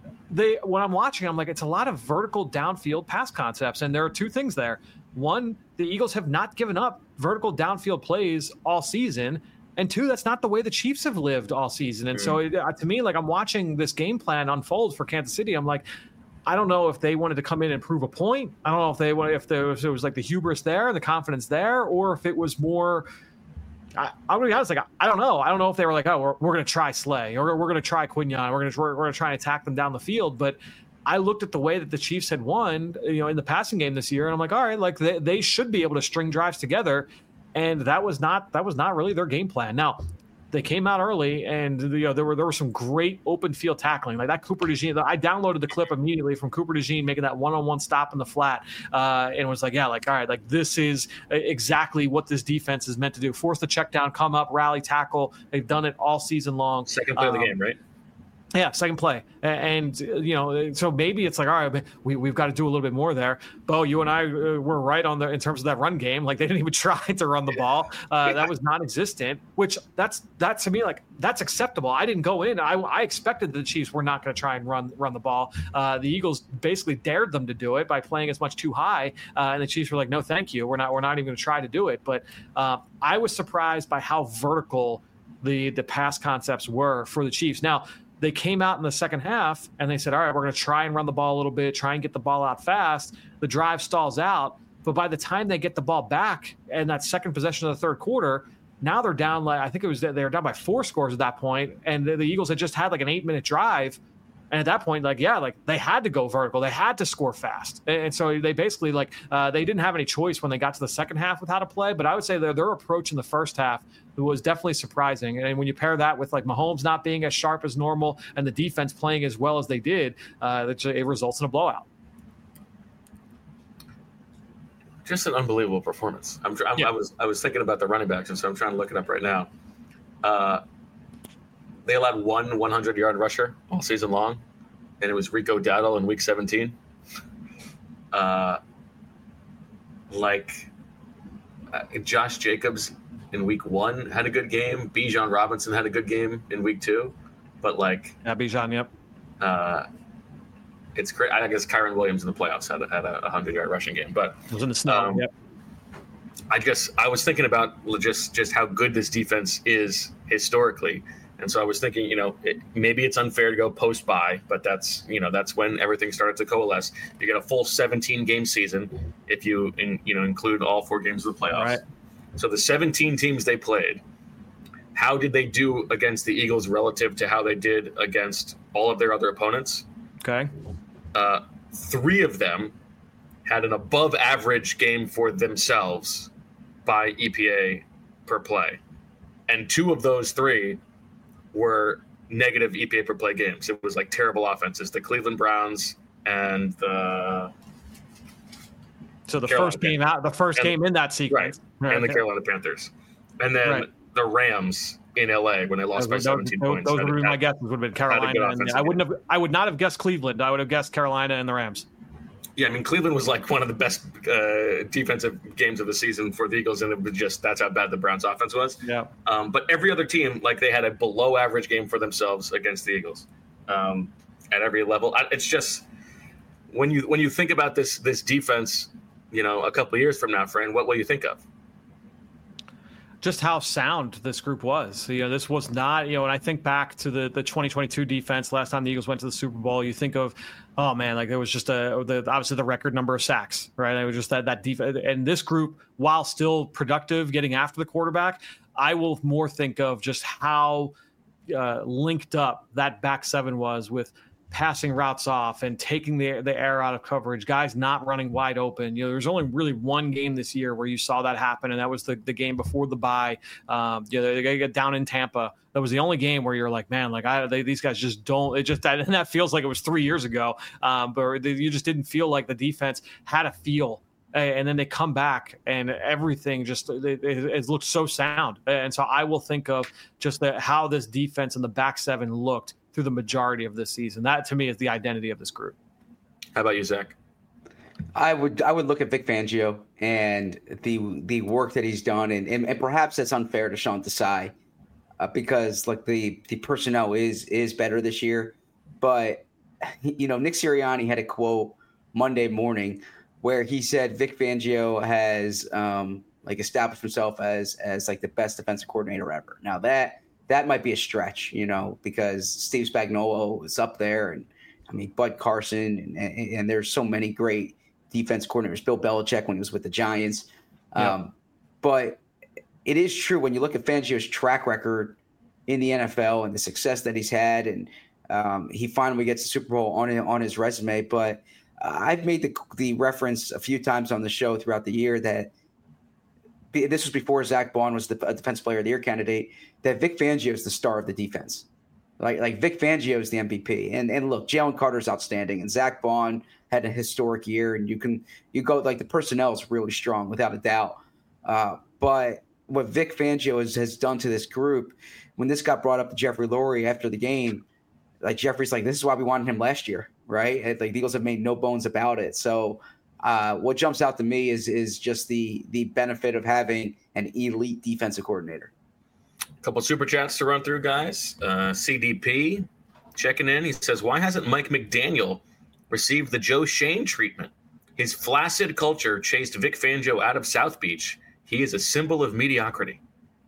When I'm watching, I'm it's a lot of vertical downfield pass concepts. And there are two things there. One, the Eagles have not given up vertical downfield plays all season. And two, that's not the way the Chiefs have lived all season. And so to me, I'm watching this game plan unfold for Kansas City. I'm I don't know if they wanted to come in and prove a point. I don't know if there was the hubris there, the confidence there, or if it was more. I'm gonna be honest, I don't know. I don't know if they were we're gonna try Slay or we're gonna try Quinyon. We're gonna try and attack them down the field. But I looked at the way that the Chiefs had won, in the passing game this year, and I'm all right, they should be able to string drives together, and that was not really their game plan. Now, they came out early, and there were some great open field tackling, that Cooper DeJean. I downloaded the clip immediately from Cooper DeJean making that one-on-one stop in the flat, and was all right, this is exactly what this defense is meant to do: force the check down, come up, rally, tackle. They've done it all season long. Second play of the game, right? Yeah, second play. And so maybe it's all right, we've got to do a little bit more there. Bo, you and I were right in terms of that run game. They didn't even try to run the ball. That was non-existent, which that's to me, that's acceptable. I didn't go in. I expected the Chiefs were not going to try and run the ball. The Eagles basically dared them to do it by playing as much too high. And the Chiefs were no, thank you. We're not even going to try to do it. But I was surprised by how vertical the pass concepts were for the Chiefs. Now, they came out in the second half and they said, all right, we're going to try and run the ball a little bit, try and get the ball out fast. The drive stalls out. But by the time they get the ball back and that second possession of the third quarter, now they're down, I think they were down by 4 scores at that point. And the Eagles had just had an 8-minute drive. And at that point, they had to go vertical. They had to score fast. And so they basically, they didn't have any choice when they got to the second half with how to play. But I would say their approach in the first half was definitely surprising. And when you pair that with, Mahomes not being as sharp as normal and the defense playing as well as they did, it results in a blowout. Just an unbelievable performance. I was thinking about the running backs, and so I'm trying to look it up right now. They allowed one 100-yard rusher all season long, and it was Rico Dowdle in Week 17. Josh Jacobs in Week 1 had a good game. Bijan Robinson had a good game in Week 2, but Bijan, yep. It's great. I guess Kyron Williams in the playoffs had a 100-yard rushing game, but it was in the snow. Yep. I was thinking about just how good this defense is historically. And so I was thinking, maybe it's unfair to go post-bye, but that's when everything started to coalesce. You get a full 17-game season if you include all 4 games of the playoffs. Right. So the 17 teams they played, how did they do against the Eagles relative to how they did against all of their other opponents? Okay. 3 of them had an above-average game for themselves by EPA per play, and 2 of those 3 were negative EPA per play games. It was like terrible offenses. The Cleveland Browns and the game in that sequence, right. And the Carolina Panthers, and then the Rams in LA when they lost by 17 points. Those would be my guesses. Would have been Carolina. And I would not have guessed Cleveland. I would have guessed Carolina and the Rams. Yeah, I mean, Cleveland was like one of the best defensive games of the season for the Eagles, and it was just that's how bad the Browns' offense was. Yeah. But every other team, like they had a below-average game for themselves against the Eagles at every level. It's just when you think about this defense, a couple of years from now, Fran, what will you think of? Just how sound this group was. This was not, when I think back to the 2022 defense, last time the Eagles went to the Super Bowl, you think of, oh man, like there was just obviously the record number of sacks, right? It was just that defense. And this group, while still productive, getting after the quarterback, I will more think of just how linked up that back 7 was with passing routes off and taking the air out of coverage, guys not running wide open. There's only really one game this year where you saw that happen, and that was the game before the bye. They get down in Tampa. That was the only game where you're like, man, like these guys just don't. It just and that feels like it was 3 years ago, but you just didn't feel like the defense had a feel. And then they come back and everything just it looked so sound. And so I will think of just how this defense and the back 7 looked through the majority of this season. That to me is the identity of this group. How about you, Zach? I would look at Vic Fangio and the work that he's done, and perhaps that's unfair to Sean Desai because like the personnel is better this year. But Nick Sirianni had a quote Monday morning where he said Vic Fangio has established himself as like the best defensive coordinator ever. Now that might be a stretch, because Steve Spagnuolo is up there, and I mean Bud Carson, and there's so many great defense coordinators. Bill Belichick when he was with the Giants, but it is true when you look at Fangio's track record in the NFL and the success that he's had, and he finally gets the Super Bowl on his resume. But I've made the reference a few times on the show throughout the year that this was before Zach Bond was the Defensive Player of the Year candidate, that Vic Fangio is the star of the defense. Like Vic Fangio is the MVP. And look, Jalen Carter's outstanding, and Zach Bond had a historic year, and you go like the personnel is really strong without a doubt. But what Vic Fangio has done to this group, when this got brought up to Jeffrey Lurie after the game, like Jeffrey's like, this is why we wanted him last year, right? And, like the Eagles have made no bones about it. So what jumps out to me is just the benefit of having an elite defensive coordinator. A couple super chats to run through, guys. CDP checking in. He says, why hasn't Mike McDaniel received the Joe Shane treatment? His flaccid culture chased Vic Fangio out of South Beach. He is a symbol of mediocrity.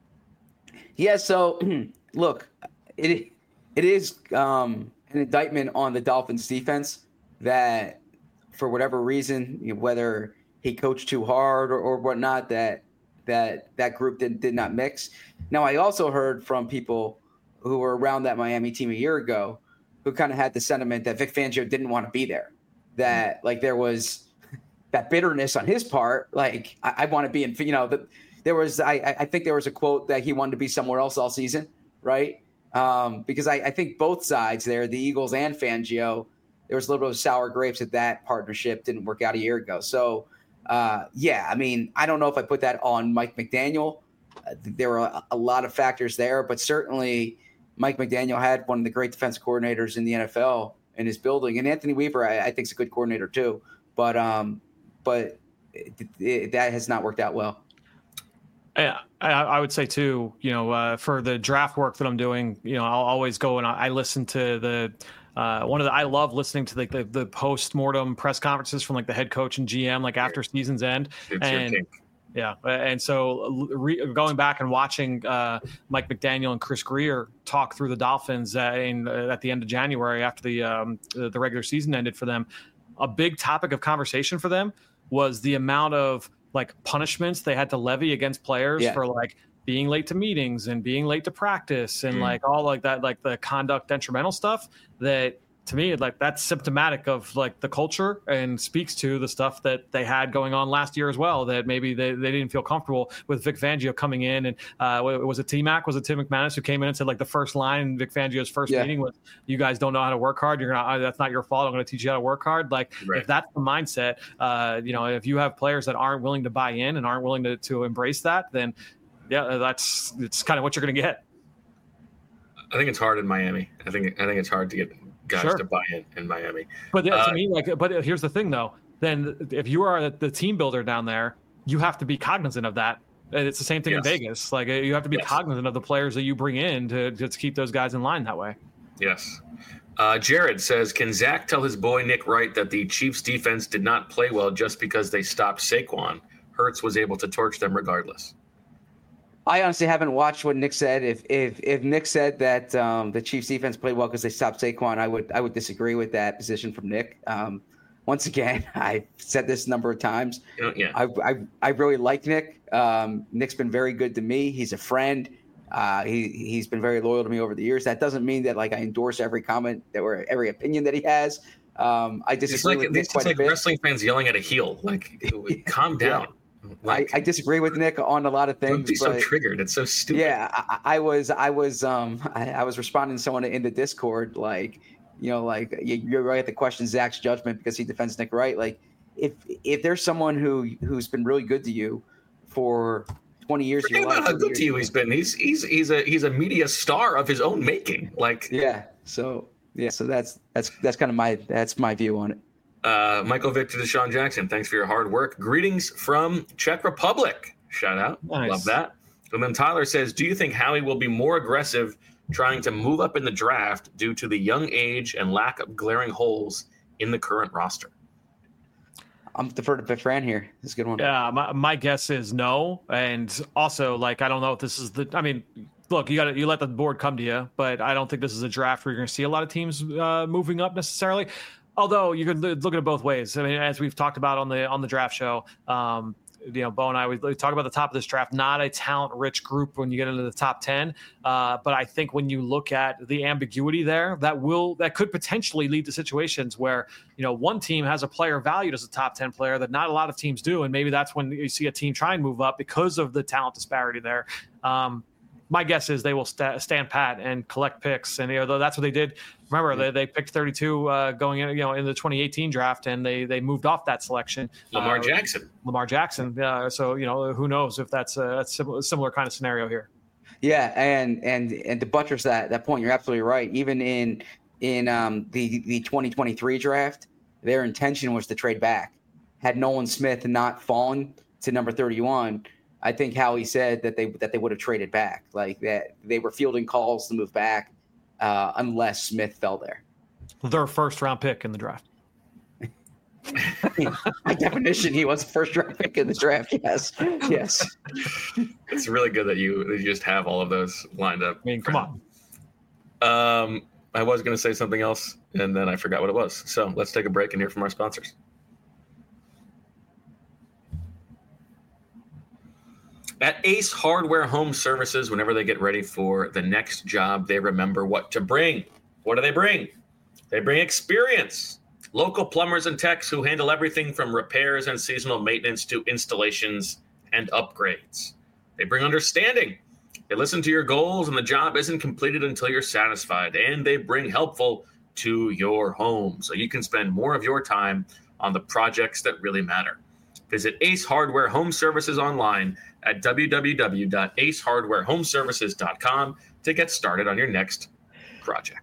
Yeah, so look, it is an indictment on the Dolphins defense that for whatever reason, whether he coached too hard or whatnot, that group did not mix. Now, I also heard from people who were around that Miami team a year ago who kind of had the sentiment that Vic Fangio didn't want to be there, that like there was that bitterness on his part. Like I want to be in, there was, I think there was a quote that he wanted to be somewhere else all season. Right. Because I think both sides there, the Eagles and Fangio, there was a little bit of sour grapes that partnership didn't work out a year ago. So, I mean, I don't know if I put that on Mike McDaniel. There were a lot of factors there, but certainly Mike McDaniel had one of the great defense coordinators in the NFL in his building. And Anthony Weaver, I think, is a good coordinator too. But that has not worked out well. Yeah, I would say too, for the draft work that I'm doing, I'll always go and I listen to the I love listening to the post-mortem press conferences from like the head coach and GM, like after season's end. Yeah, and so going back and watching Mike McDaniel and Chris Grier talk through the Dolphins at the end of January after the regular season ended for them, a big topic of conversation for them was the amount of like punishments they had to levy against players for like being late to meetings and being late to practice and like all like that, like the conduct detrimental stuff that, to me, like that's symptomatic of like the culture and speaks to the stuff that they had going on last year as well, that maybe they didn't feel comfortable with Vic Fangio coming in. And was it T-Mac? Was it Tim McManus who came in and said like the first line in Vic Fangio's first meeting was, you guys don't know how to work hard. That's not your fault. I'm going to teach you how to work hard. Like if that's the mindset, if you have players that aren't willing to buy in and aren't willing to embrace that, then it's kind of what you're going to get. I think it's hard in Miami. I think it's hard to get guys to buy in Miami. But to me, but here's the thing though. Then if you are the team builder down there, you have to be cognizant of that. And it's the same thing in Vegas. Like you have to be cognizant of the players that you bring in to keep those guys in line that way. Yes. Jared says, can Zach tell his boy Nick Wright that the Chiefs defense did not play well just because they stopped Saquon? Hurts was able to torch them regardless. I honestly haven't watched what Nick said. If Nick said that the Chiefs defense played well because they stopped Saquon, I would disagree with that position from Nick. Once again, I've said this a number of times. I really like Nick. Nick's been very good to me. He's a friend. He's been very loyal to me over the years. That doesn't mean that like I endorse every comment or every opinion that he has. I disagree with Nick quite a bit. Wrestling fans yelling at a heel. Like, calm down. Like, I disagree with Nick on a lot of things. Don't be so triggered. It's so stupid. Yeah, I was responding to someone in the Discord, like, you're right to question Zach's judgment because he defends Nick Wright. Like, if there's someone who's been really good to you for 20 years, forget about how good to you he's been. He's a media star of his own making. Like, so that's kind of my view on it. Michael Vick to Deshaun Jackson, thanks for your hard work. Greetings from Czech Republic. Shout out. Nice. Love that. And then Tyler says, do you think Howie will be more aggressive trying to move up in the draft due to the young age and lack of glaring holes in the current roster? I'm deferred to Fran here. This is a good one. Yeah, my guess is no. And also, like, I don't know if this is look, you let the board come to you, but I don't think this is a draft where you're going to see a lot of teams moving up necessarily. Although you could look at it both ways. I mean, as we've talked about on the draft show, Bo and I, we talk about the top of this draft, not a talent-rich group when you get into the top 10. But I think when you look at the ambiguity there, that could potentially lead to situations where, one team has a player valued as a top 10 player that not a lot of teams do. And maybe that's when you see a team try and move up because of the talent disparity there. My guess is they will stand pat and collect picks, and that's what they did. Remember, they picked 32 going in, in the 2018 draft, and they moved off that selection. Lamar Jackson. So who knows if that's a similar kind of scenario here. Yeah, and to buttress that point, you're absolutely right. Even in the 2023 draft, their intention was to trade back. Had Nolan Smith not fallen to number 31. I think Howie said that they would have traded back, like that they were fielding calls to move back unless Smith fell there. Their first round pick in the draft. By definition, he was a first round pick in the draft. Yes. It's really good that you just have all of those lined up. I mean, come on. I was going to say something else, and then I forgot what it was. So let's take a break and hear from our sponsors. At Ace Hardware Home Services, whenever they get ready for the next job, they remember what to bring. What do they bring? They bring experience. Local plumbers and techs who handle everything from repairs and seasonal maintenance to installations and upgrades. They bring understanding. They listen to your goals, and the job isn't completed until you're satisfied. And they bring helpful to your home, so you can spend more of your time on the projects that really matter. Visit Ace Hardware Home Services online at www.acehardwarehomeservices.com to get started on your next project.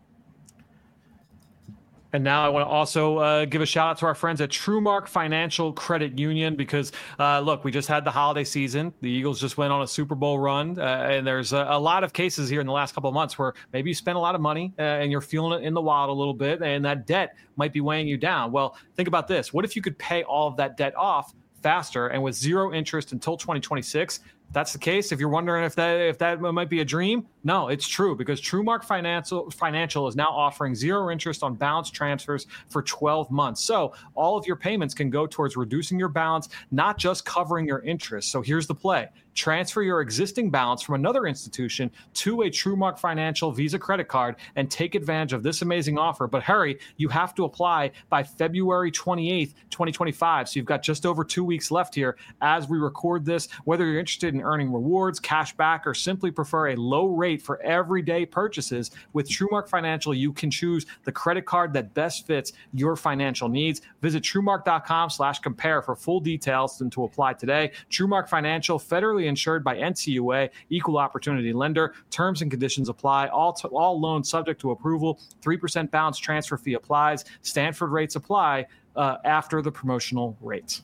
And now I want to also give a shout out to our friends at TrueMark Financial Credit Union because, look, we just had the holiday season. The Eagles just went on a Super Bowl run. And there's a lot of cases here in the last couple of months where maybe you spent a lot of money and you're feeling it in the wallet a little bit, and that debt might be weighing you down. Well, think about this. What if you could pay all of that debt off faster and with zero interest until 2026. That's the case. If you're wondering if that might be a dream, no, it's true, because TrueMark Financial is now offering zero interest on balance transfers for 12 months. So all of your payments can go towards reducing your balance, not just covering your interest. So here's the play. Transfer your existing balance from another institution to a TrueMark Financial Visa credit card and take advantage of this amazing offer. But hurry, you have to apply by February 28th, 2025. So you've got just over 2 weeks left here as we record this. Whether you're interested in earning rewards, cash back, or simply prefer a low rate for everyday purchases, with TrueMark Financial, you can choose the credit card that best fits your financial needs. Visit TrueMark.com/compare for full details and to apply today. TrueMark Financial, federally insured by NCUA, equal opportunity lender. Terms and conditions apply. All loans subject to approval. 3% balance transfer fee applies. Stanford rates apply after the promotional rates.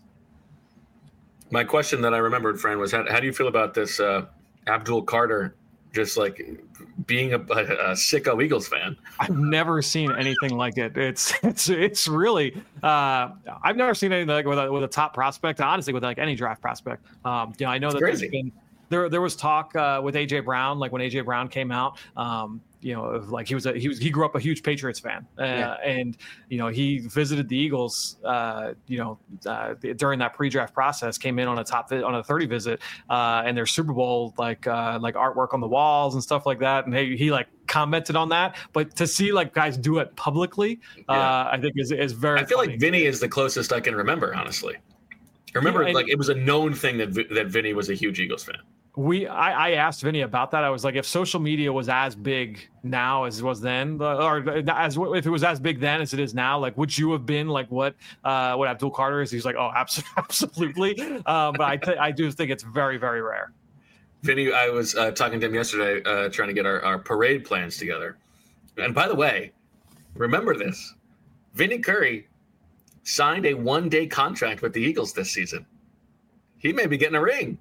My question that I remembered, Fran, was how do you feel about this Abdul Carter just like being a sicko Eagles fan? I've never seen anything like it. It's really I've never seen anything like with a top prospect. Honestly, with like any draft prospect. I know that there's been there was talk with AJ Brown, like when AJ Brown came out. Like he grew up a huge Patriots fan, and he visited the Eagles, during that pre-draft process, came in on a 30 visit, and their Super Bowl like artwork on the walls and stuff like that, and he like commented on that. But to see like guys do it publicly, I think is very. I feel funny. like Vinny is the closest I can remember, honestly. I remember it was a known thing that Vinny was a huge Eagles fan. I asked Vinny about that. I was like, if social media was as big now as it was then, or if it was as big then as it is now, like, would you have been like what Abdul Carter is? He's like, oh, absolutely. But I do think it's very, very rare. Vinny, I was talking to him yesterday, trying to get our parade plans together. And by the way, remember this: Vinny Curry signed a 1-day contract with the Eagles this season. He may be getting a ring.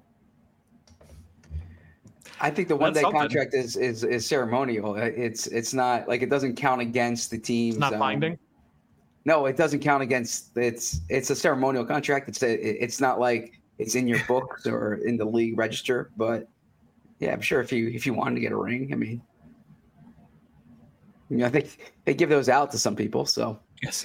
I think the 1-day contract is ceremonial. It's not like, it doesn't count against the team. It's not binding. No, it doesn't count against. It's a ceremonial contract. It's not like it's in your books or in the league register. But yeah, I'm sure if you wanted to get a ring, I mean, I think they give those out to some people. So yes,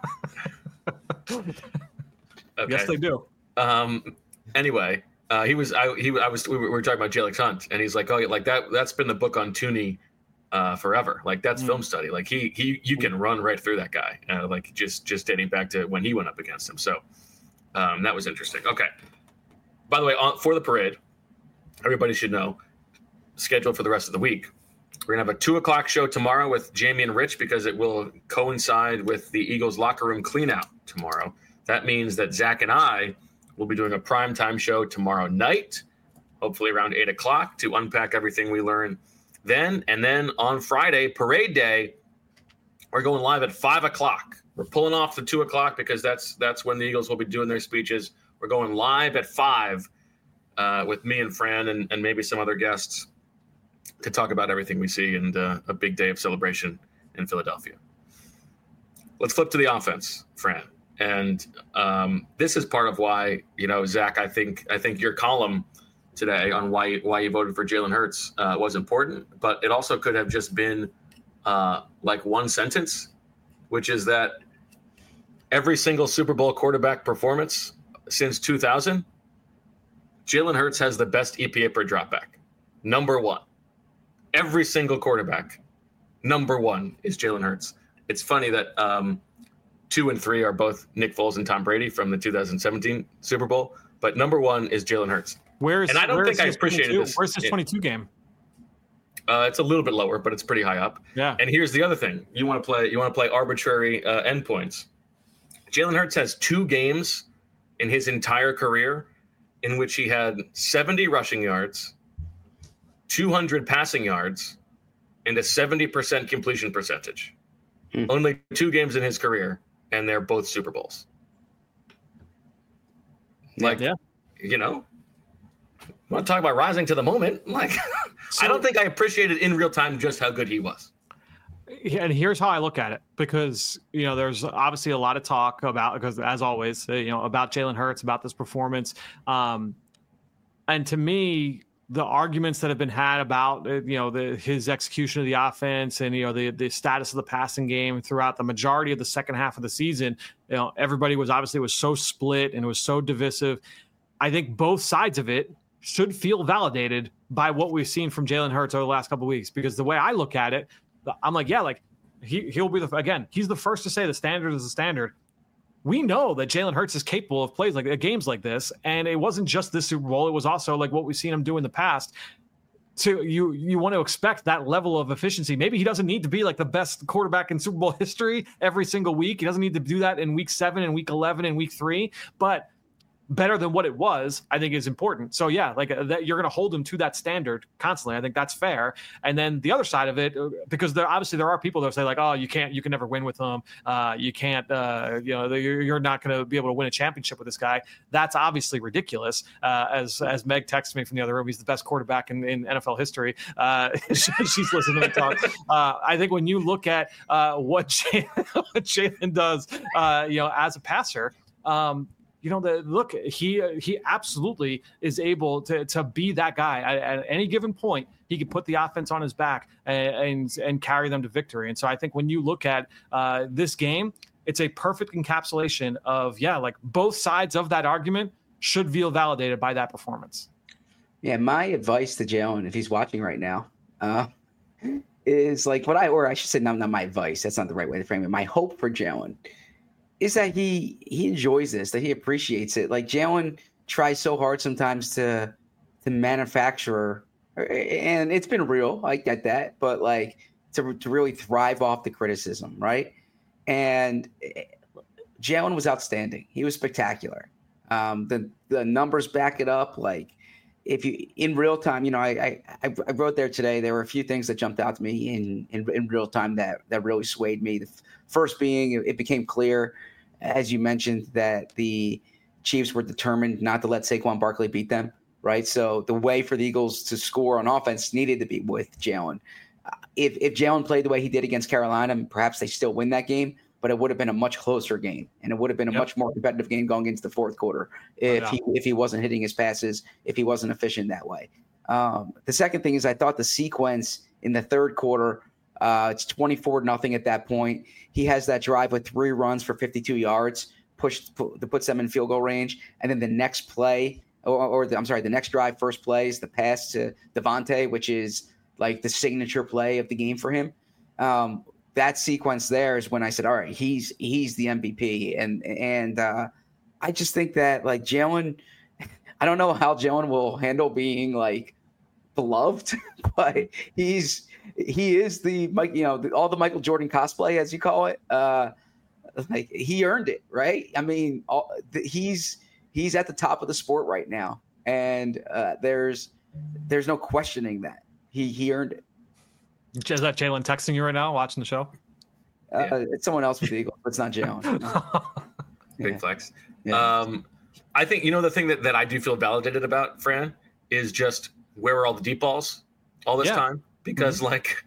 okay. Yes, they do. Anyway. We were talking about Jalen Hunt, and he's like, oh, like that's been the book on Tooney forever. Like that's film study. Like you can run right through that guy. Like just dating back to when he went up against him. So that was interesting. Okay. By the way, for the parade, everybody should know, scheduled for the rest of the week. We're gonna have a 2:00 show tomorrow with Jamie and Rich, because it will coincide with the Eagles locker room cleanout tomorrow. That means that Zach and I will be doing a primetime show tomorrow night, hopefully around 8:00, to unpack everything we learn then. And then on Friday, parade day, we're going live at 5:00. We're pulling off the 2:00 because that's when the Eagles will be doing their speeches. We're going live at 5 with me and Fran and maybe some other guests to talk about everything we see, and a big day of celebration in Philadelphia. Let's flip to the offense, Fran. And this is part of why, Zach, I think your column today on why you voted for Jalen Hurts was important, but it also could have just been like one sentence, which is that every single Super Bowl quarterback performance since 2000, Jalen Hurts has the best EPA per dropback. Number one. Every single quarterback, number one is Jalen Hurts. It's funny that 2 and 3 are both Nick Foles and Tom Brady from the 2017 Super Bowl, but number one is Jalen Hurts. And I don't think I appreciated this. Where's this 22 game? It's a little bit lower, but it's pretty high up. Yeah. And here's the other thing: you want to play arbitrary endpoints. Jalen Hurts has 2 games in his entire career in which he had 70 rushing yards, 200 passing yards, and a 70% completion percentage. Only 2 games in his career, and they're both Super Bowls. Want to talk about rising to the moment? Like, I don't think I appreciated in real time just how good he was. And here's how I look at it, because, there's obviously a lot of talk about, because as always, about Jalen Hurts, about this performance. And to me, the arguments that have been had about, his execution of the offense and, the status of the passing game throughout the majority of the second half of the season, everybody was so split and it was so divisive. I think both sides of it should feel validated by what we've seen from Jalen Hurts over the last couple of weeks, because the way I look at it, I'm like, yeah, like he'll be he's the first to say the standard is the standard. We know that Jalen Hurts is capable of plays like games like this. And it wasn't just this Super Bowl. It was also like what we've seen him do in the past. So you want to expect that level of efficiency. Maybe he doesn't need to be like the best quarterback in Super Bowl history every single week. He doesn't need to do that in week 7 and week 11 and week 3, but better than what it was, I think, is important. So yeah, like that, you're going to hold him to that standard constantly. I think that's fair. And then the other side of it, because there are people that say like, oh, you can never win with him. You can't, you're not going to be able to win a championship with this guy. That's obviously ridiculous. As Meg texted me from the other room, he's the best quarterback in NFL history. She's listening to me talk. I think when you look at what Jalen does, as a passer, he absolutely is able to be that guy at any given point. He could put the offense on his back and carry them to victory. And so I think when you look at this game, it's a perfect encapsulation of, like both sides of that argument should feel validated by that performance. Yeah, my advice to Jalen, if he's watching right now, is like I should say, not my advice. That's not the right way to frame it. My hope for Jalen is that he enjoys this, that he appreciates it. Like Jalen tries so hard sometimes to manufacture, and it's been real. I get that, but like to really thrive off the criticism, right? And Jalen was outstanding. He was spectacular. The numbers back it up. Like if you in real time, I wrote there today. There were a few things that jumped out to me in real time that really swayed me. The first being, it became clear, as you mentioned, that the Chiefs were determined not to let Saquon Barkley beat them, right? So the way for the Eagles to score on offense needed to be with Jalen. If Jalen played the way he did against Carolina, perhaps they still win that game, but it would have been a much closer game, and it would have been a much more competitive game going into the fourth quarter if he wasn't hitting his passes, if he wasn't efficient that way. The second thing is I thought the sequence in the third quarter, it's 24-0 at that point. He has that drive with 3 runs for 52 yards, puts them in field goal range. And then the next play, the next drive, first play is the pass to Devontae, which is like the signature play of the game for him. That sequence there is when I said, all right, he's the MVP. And I just think that like Jalen, I don't know how Jalen will handle being like beloved, but he is the all the Michael Jordan cosplay, as you call it. Like he earned it, right? I mean, he's at the top of the sport right now, and there's no questioning that he earned it. Is that Jalen texting you right now, watching the show? It's someone else with the Eagles, but it's not Jalen. Big flex. Yeah. I think the thing that I do feel validated about, Fran, is just where were all the deep balls all this time? Because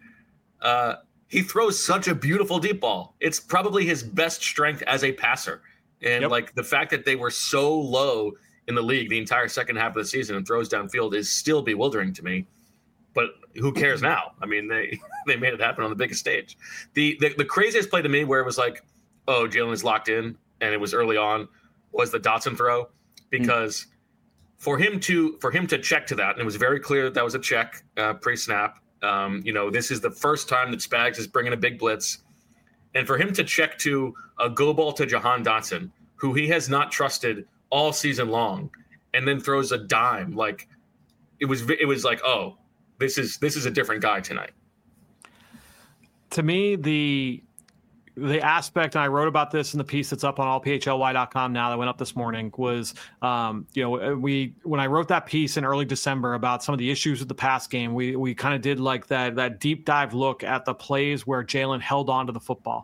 he throws such a beautiful deep ball. It's probably his best strength as a passer. And like the fact that they were so low in the league the entire second half of the season and throws downfield is still bewildering to me. But who cares now? I mean, they made it happen on the biggest stage. The craziest play to me where it was like, oh, Jalen is locked in and it was early on was the Dotson throw, because for him to check to that, and it was very clear that was a check pre-snap. This is the first time that Spags is bringing a big blitz, and for him to check to a go ball to Jahan Dotson, who he has not trusted all season long, and then throws a dime, like it was like, oh, this is a different guy tonight. To me, the aspect, and I wrote about this in the piece that's up on allphly.com now that went up this morning, was, when I wrote that piece in early December about some of the issues with the pass game, we kind of did like that deep dive look at the plays where Jalen held on to the football.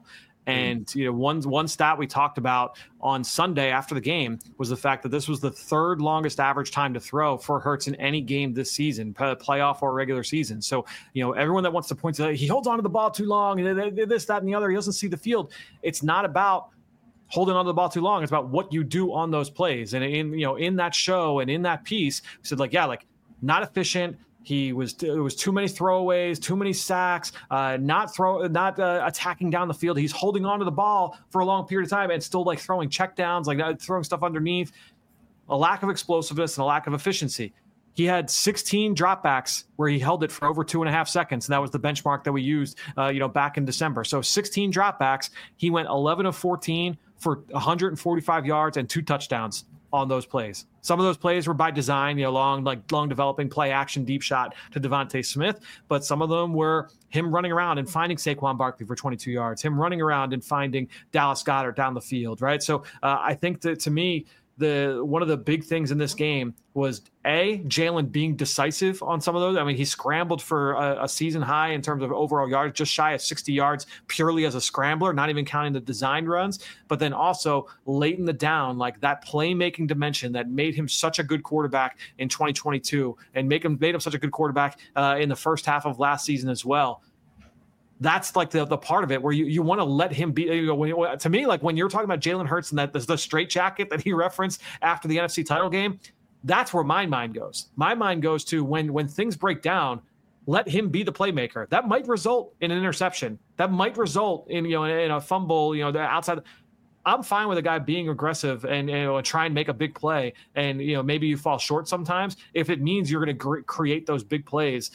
And one stat we talked about on Sunday after the game was the fact that this was the third longest average time to throw for Hurts in any game this season, playoff or regular season. So everyone that wants to point to he holds on to the ball too long, this, that, and the other, he doesn't see the field. It's not about holding on to the ball too long. It's about what you do on those plays. And in that show and in that piece, we said not efficient. It was too many throwaways, too many sacks, not attacking down the field. He's holding on to the ball for a long period of time and still throwing checkdowns, throwing stuff underneath. A lack of explosiveness and a lack of efficiency. He had 16 dropbacks where he held it for over 2.5 seconds. And that was the benchmark that we used, back in December. So 16 dropbacks. He went 11 of 14 for 145 yards and 2 touchdowns on those plays. Some of those plays were by design, long developing play action deep shot to Devontae Smith, but some of them were him running around and finding Saquon Barkley for 22 yards, him running around and finding Dallas Goedert down the field, right? So I think that, to me, one of the big things in this game was Jalen being decisive on some of those. I mean, he scrambled for a season high in terms of overall yards, just shy of 60 yards purely as a scrambler, not even counting the design runs. But then also late in the down, that playmaking dimension that made him such a good quarterback in 2022 and made him such a good quarterback in the first half of last season as well. That's the part of it where you want to let him be. To me, when you're talking about Jalen Hurts and the straitjacket that he referenced after the NFC title game, that's where my mind goes. My mind goes to when things break down, let him be the playmaker. That might result in an interception. That might result in in a fumble. Outside. I'm fine with a guy being aggressive and try and make a big play, and maybe you fall short sometimes if it means you're going to create those big plays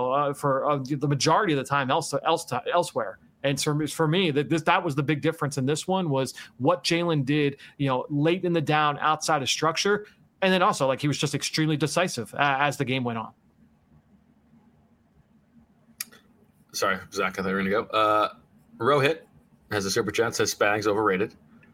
for the majority of the time elsewhere. And for me, that was the big difference in this one, was what Jalen did late in the down outside of structure, and then also he was just extremely decisive as the game went on. Sorry, Zach, I thought you were going to go. Rohit has a super chat, says Spags overrated.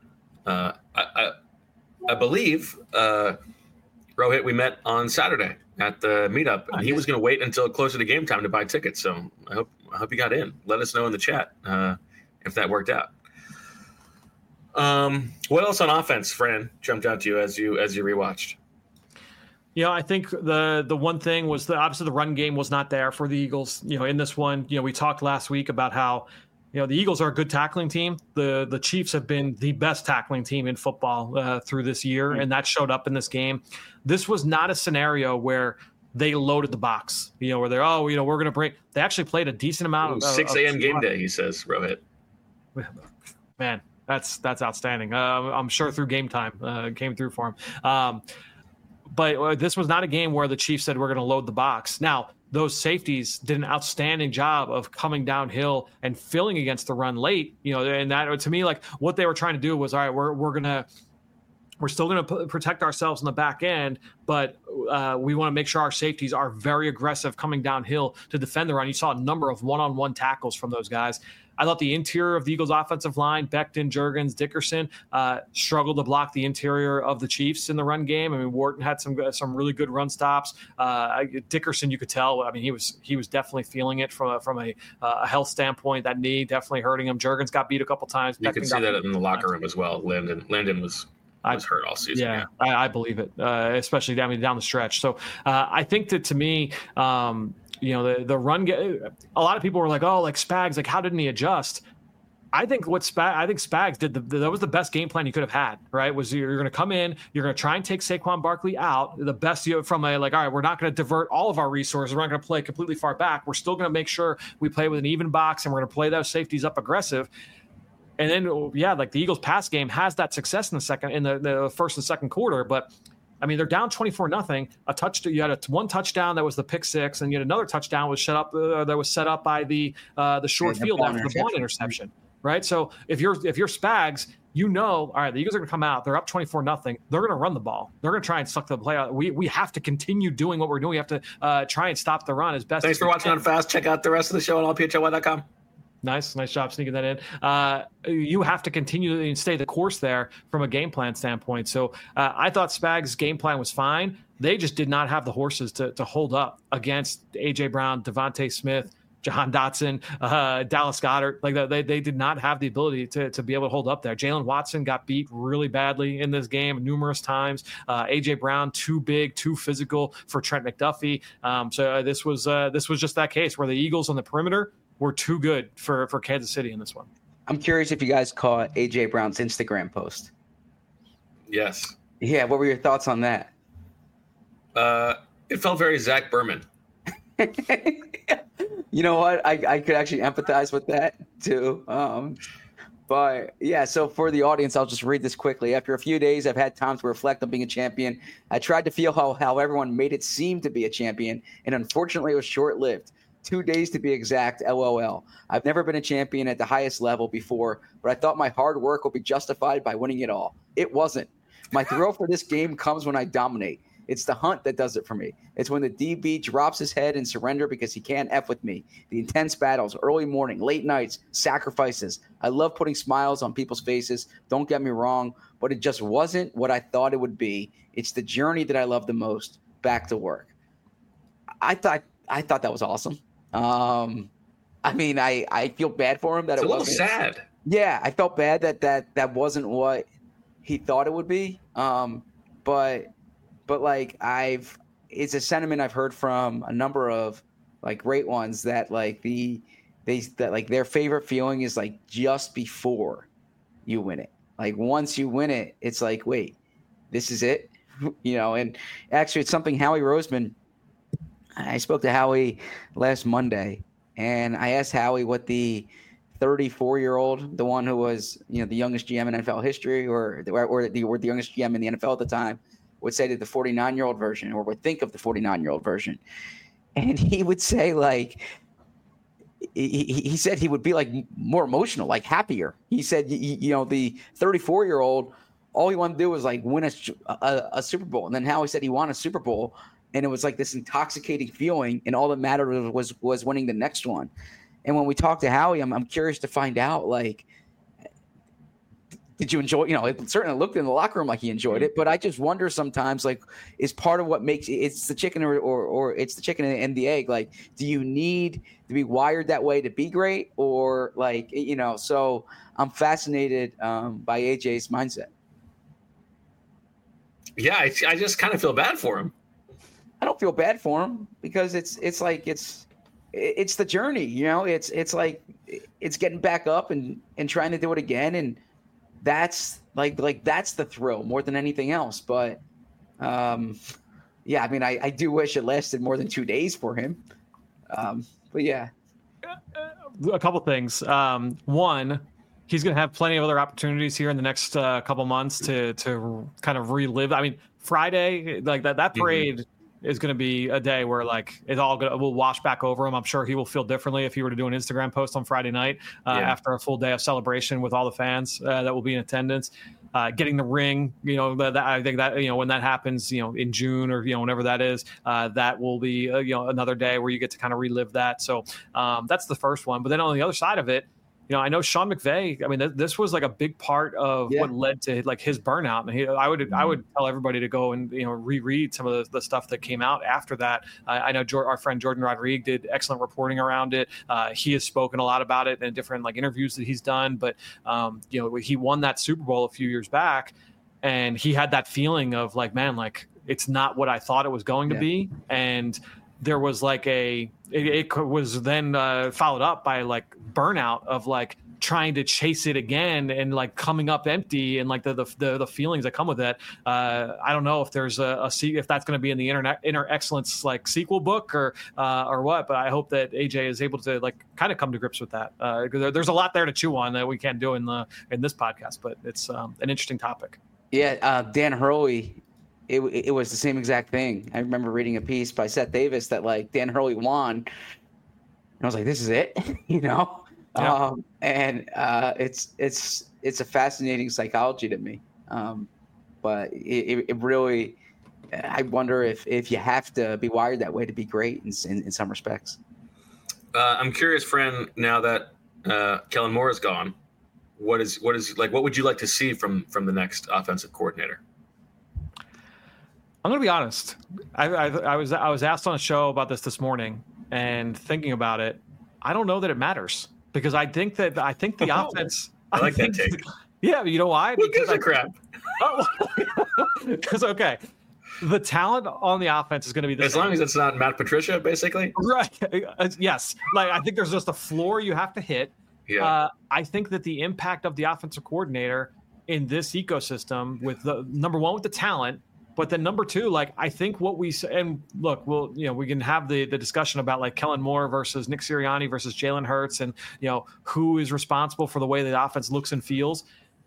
I believe Rohit, we met on Saturday at the meetup, and he was going to wait until closer to game time to buy tickets. So I hope you got in. Let us know in the chat if that worked out. What else on offense, Fran, jumped out to you as you rewatched? I think the one thing was obviously the run game was not there for the Eagles. In this one, we talked last week about how the Eagles are a good tackling team. The Chiefs have been the best tackling team in football through this year, and that showed up in this game. This was not a scenario where they loaded the box, where they're, we're going to break. They actually played a decent amount of 6 a.m. game day, he says, Rohit. Man, that's outstanding. I'm sure through game time came through for him. But this was not a game where the Chiefs said we're going to load the box. Now, those safeties did an outstanding job of coming downhill and filling against the run late, and that, to me, what they were trying to do was, all right, we're still going to protect ourselves in the back end, but we want to make sure our safeties are very aggressive coming downhill to defend the run. You saw a number of one-on-one tackles from those guys. I thought the interior of the Eagles offensive line, Becton, Juergens, Dickerson, struggled to block the interior of the Chiefs in the run game. I mean, Wharton had some really good run stops. Dickerson, you could tell. I mean, he was definitely feeling it from a health standpoint. That knee definitely hurting him. Juergens got beat a couple times. You can see that in the locker room as well. Landon was hurt all season. Yeah. I believe it, especially down the stretch. So I think that, to me, the run. A lot of people were like, Spags, how didn't he adjust? I think Spags did that was the best game plan you could have had. Right? Was you're going to come in, you're going to try and take Saquon Barkley out. The best from all right, we're not going to divert all of our resources. We're not going to play completely far back. We're still going to make sure we play with an even box, and we're going to play those safeties up aggressive. And then, the Eagles pass game has that success in the first and second quarter, but I mean, they're down 24-0. You had one touchdown that was the pick six, and yet another touchdown was set up by the short field after the Bond interception, right? So if you're Spags, all right, the Eagles are going to come out. They're up 24-0. They're going to run the ball. They're going to try and suck the play out. We have to continue doing what we're doing. We have to try and stop the run as best. Thanks for watching on Fast. Check out the rest of the show on allphly.com. Nice job sneaking that in. You have to continue and stay the course there from a game plan standpoint. So I thought Spags' game plan was fine. They just did not have the horses to hold up against A.J. Brown, Devontae Smith, Jahan Dotson, Dallas Goedert. Like they did not have the ability to be able to hold up there. Jalen Watson got beat really badly in this game numerous times. AJ Brown, too big, too physical for Trent McDuffie. So this was just that case where the Eagles on the perimeter were too good for Kansas City in this one. I'm curious if you guys caught AJ Brown's Instagram post. Yes. Yeah, what were your thoughts on that? It felt very Zach Berman. You know what? I could actually empathize with that too. But yeah, so for the audience, I'll just read this quickly. After a few days, I've had time to reflect on being a champion. I tried to feel how everyone made it seem to be a champion, and unfortunately, it was short-lived. 2 days to be exact, LOL. I've never been a champion at the highest level before, but I thought my hard work would be justified by winning it all. It wasn't. My thrill for this game comes when I dominate. It's the hunt that does it for me. It's when the DB drops his head and surrender because he can't F with me. The intense battles, early morning, late nights, sacrifices. I love putting smiles on people's faces. Don't get me wrong, but it just wasn't what I thought it would be. It's the journey that I love the most. Back to work. I thought that was awesome. I mean, I feel bad for him that it's it wasn't. It's a little sad. Yeah, I felt bad that wasn't what he thought it would be. But like it's a sentiment I've heard from a number of like great ones that like their favorite feeling is like just before you win it. Like once you win it, it's like, wait, this is it, And actually, it's something Howie Roseman. I spoke to Howie last Monday, and I asked Howie what the 34-year-old, the one who was the youngest GM in NFL history, or the youngest GM in the NFL at the time, would say to the 49-year-old version, or would think of the 49-year-old version. And he would say, like, he said he would be like more emotional, like happier. He said, the 34-year-old, all he wanted to do was like win a Super Bowl. And then Howie said he won a Super Bowl, and it was like this intoxicating feeling, and all that mattered was winning the next one. And when we talked to Howie, I'm curious to find out, like, did you enjoy? It certainly looked in the locker room like he enjoyed it, but I just wonder sometimes, like, is part of what makes it's the chicken or it's the chicken and the egg? Like, do you need to be wired that way to be great, or like, So I'm fascinated by AJ's mindset. Yeah, I just kind of feel bad for him. I don't feel bad for him because it's the journey, It's like it's getting back up and trying to do it again, and that's like that's the thrill more than anything else. But yeah, I mean, I do wish it lasted more than 2 days for him. But yeah, a couple things. One, he's going to have plenty of other opportunities here in the next couple months to kind of relive. I mean, Friday, like that parade is going to be a day where like it all will wash back over him. I'm sure he will feel differently if he were to do an Instagram post on Friday night after a full day of celebration with all the fans that will be in attendance. Getting the ring, I think that when that happens, in June or whenever that is, that will be another day where you get to kind of relive that. So that's the first one. But then on the other side of it, I know Sean McVay. I mean, this was like a big part of what led to like his burnout. And I would tell everybody to go and reread some of the stuff that came out after that. I know our friend Jordan Rodriguez did excellent reporting around it. He has spoken a lot about it in different like interviews that he's done. But he won that Super Bowl a few years back, and he had that feeling of like, man, like it's not what I thought it was going to be, and there was like it was then followed up by like burnout of like trying to chase it again and like coming up empty and like the feelings that come with it. I don't know if there's if that's going to be in the Inner Excellence like sequel book or what, but I hope that AJ is able to like kind of come to grips with that. Because there's a lot there to chew on that we can't do in this podcast, but it's an interesting topic. Yeah, Dan Hurley. It was the same exact thing. I remember reading a piece by Seth Davis that like Dan Hurley won, and I was like, "This is it," Yeah. And it's a fascinating psychology to me. But it really, I wonder if you have to be wired that way to be great in some respects. I'm curious, friend. Now that Kellen Moore is gone, what would you like to see from the next offensive coordinator? I'm going to be honest. I was asked on a show about this morning, and thinking about it, I don't know that it matters, because I think the offense. I like that take. Yeah, you know why? Who gives a crap? Because okay, the talent on the offense is going to be the as same. long as it's not Matt Patricia, basically. Right. Yes. Like, I think there's just a floor you have to hit. Yeah. I think that the impact of the offensive coordinator in this ecosystem, with the number one with the talent, but then number two, like, I think what we and look, we can have the discussion about like Kellen Moore versus Nick Sirianni versus Jalen Hurts, and who is responsible for the way the offense looks and feels.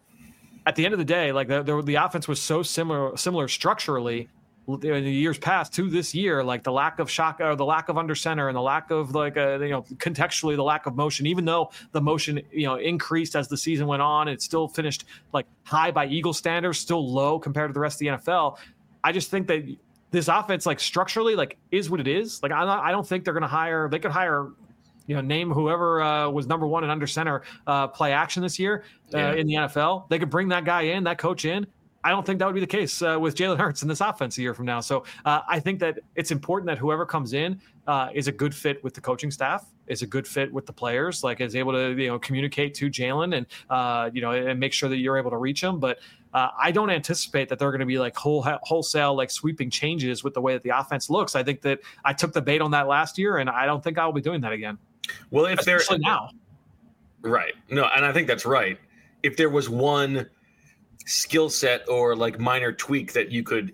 At the end of the day, like the offense was so similar structurally in the years past to this year, like the lack of shock or the lack of under center and the lack of contextually the lack of motion, even though the motion increased as the season went on, it still finished like high by Eagle standards, still low compared to the rest of the NFL. I just think that this offense, like structurally, like is what it is. Like I don't think they're going to hire. They could hire, name whoever was number one in under center play action this year in the NFL. They could bring that guy in, that coach in. I don't think that would be the case with Jalen Hurts in this offense a year from now. So I think that it's important that whoever comes in is a good fit with the coaching staff, is a good fit with the players, like is able to communicate to Jalen and and make sure that you're able to reach him. But I don't anticipate that they're going to be like wholesale like sweeping changes with the way that the offense looks. I think that I took the bait on that last year, and I don't think I will be doing that again. Well, if they're now, right, no, and I think that's right. If there was one skill set or like minor tweak that you could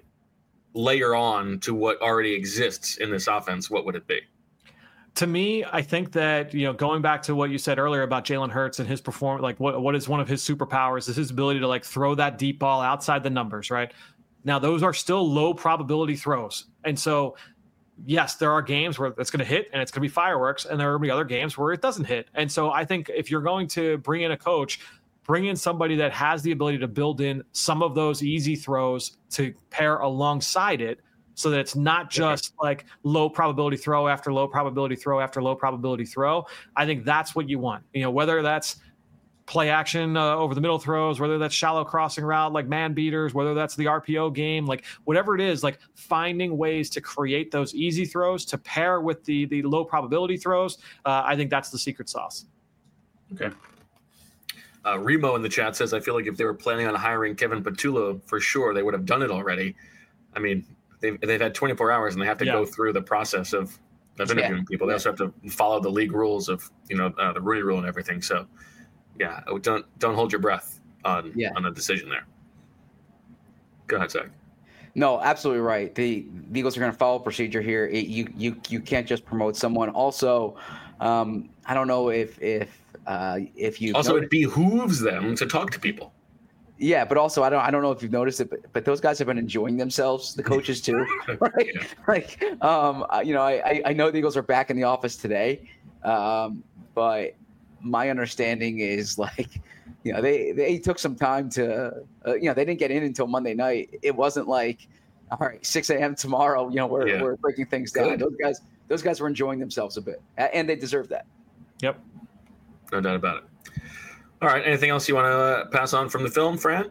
layer on to what already exists in this offense, what would it be? To me, I think that, going back to what you said earlier about Jalen Hurts and his performance, like what is one of his superpowers is his ability to like throw that deep ball outside the numbers, right? Now, those are still low probability throws. And so, yes, there are games where it's going to hit and it's going to be fireworks, and there are going to be other games where it doesn't hit. And so I think if you're going to bring in a coach, bring in somebody that has the ability to build in some of those easy throws to pair alongside it, so that it's not just like low probability throw after low probability throw after low probability throw. I think that's what you want. Whether that's play action over the middle throws, whether that's shallow crossing route like man beaters, whether that's the RPO game, like whatever it is, like finding ways to create those easy throws to pair with the low probability throws. I think that's the secret sauce. Okay. Remo in the chat says, I feel like if they were planning on hiring Kevin Patullo, for sure they would have done it already. I mean, they've had 24 hours and they have to go through the process of interviewing people. They also have to follow the league rules of the Rooney Rule and everything. So don't hold your breath on a decision there. Go ahead, Zach. No, absolutely right. The Eagles are going to follow procedure here. You can't just promote someone. Also, I don't know if you also it behooves them to talk to people. Yeah, but also I don't know if you've noticed it, but those guys have been enjoying themselves. The coaches too, right? Yeah. Like, I know the Eagles are back in the office today, but my understanding is like, they took some time to, they didn't get in until Monday night. It wasn't like, all right, 6 a.m. tomorrow. We're breaking things down. Good. Those guys were enjoying themselves a bit, and they deserve that. Yep, no doubt about it. All right. Anything else you want to pass on from the film, Fran?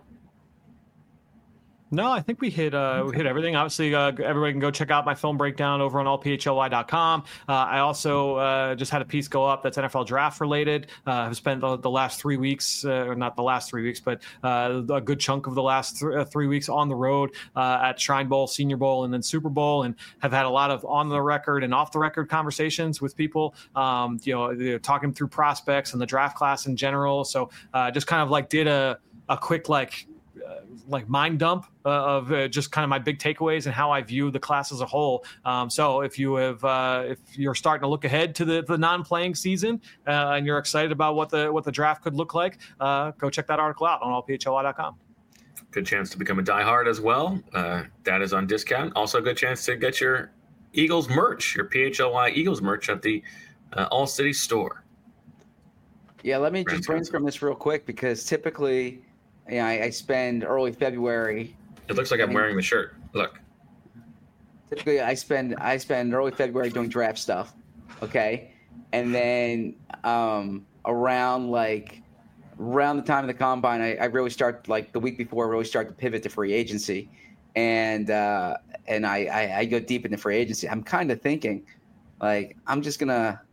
No, I think we hit everything. Obviously, everybody can go check out my film breakdown over on allphly.com. I also just had a piece go up that's NFL draft related. I've spent the last 3 weeks, or not the last 3 weeks, but a good chunk of the last 3 weeks on the road at Shrine Bowl, Senior Bowl, and then Super Bowl, and have had a lot of on the record and off the record conversations with people, talking through prospects and the draft class in general. So just kind of like did a quick like mind dump of just kind of my big takeaways and how I view the class as a whole. So if you're starting to look ahead to the non-playing season and you're excited about what the draft could look like, go check that article out on allphly.com. Good chance to become a diehard as well. That is on discount. Also a good chance to get your Eagles merch, your PHLY Eagles merch at the All City store. Yeah, let me just brainstorm this real quick, because typically I spend early February. It looks like I'm wearing the shirt. Look. Typically, I spend early February doing draft stuff, okay, and then around the time of the combine, I really start, like the week before, I really start to pivot to free agency, and I go deep into free agency. I'm kind of thinking, like, I'm just gonna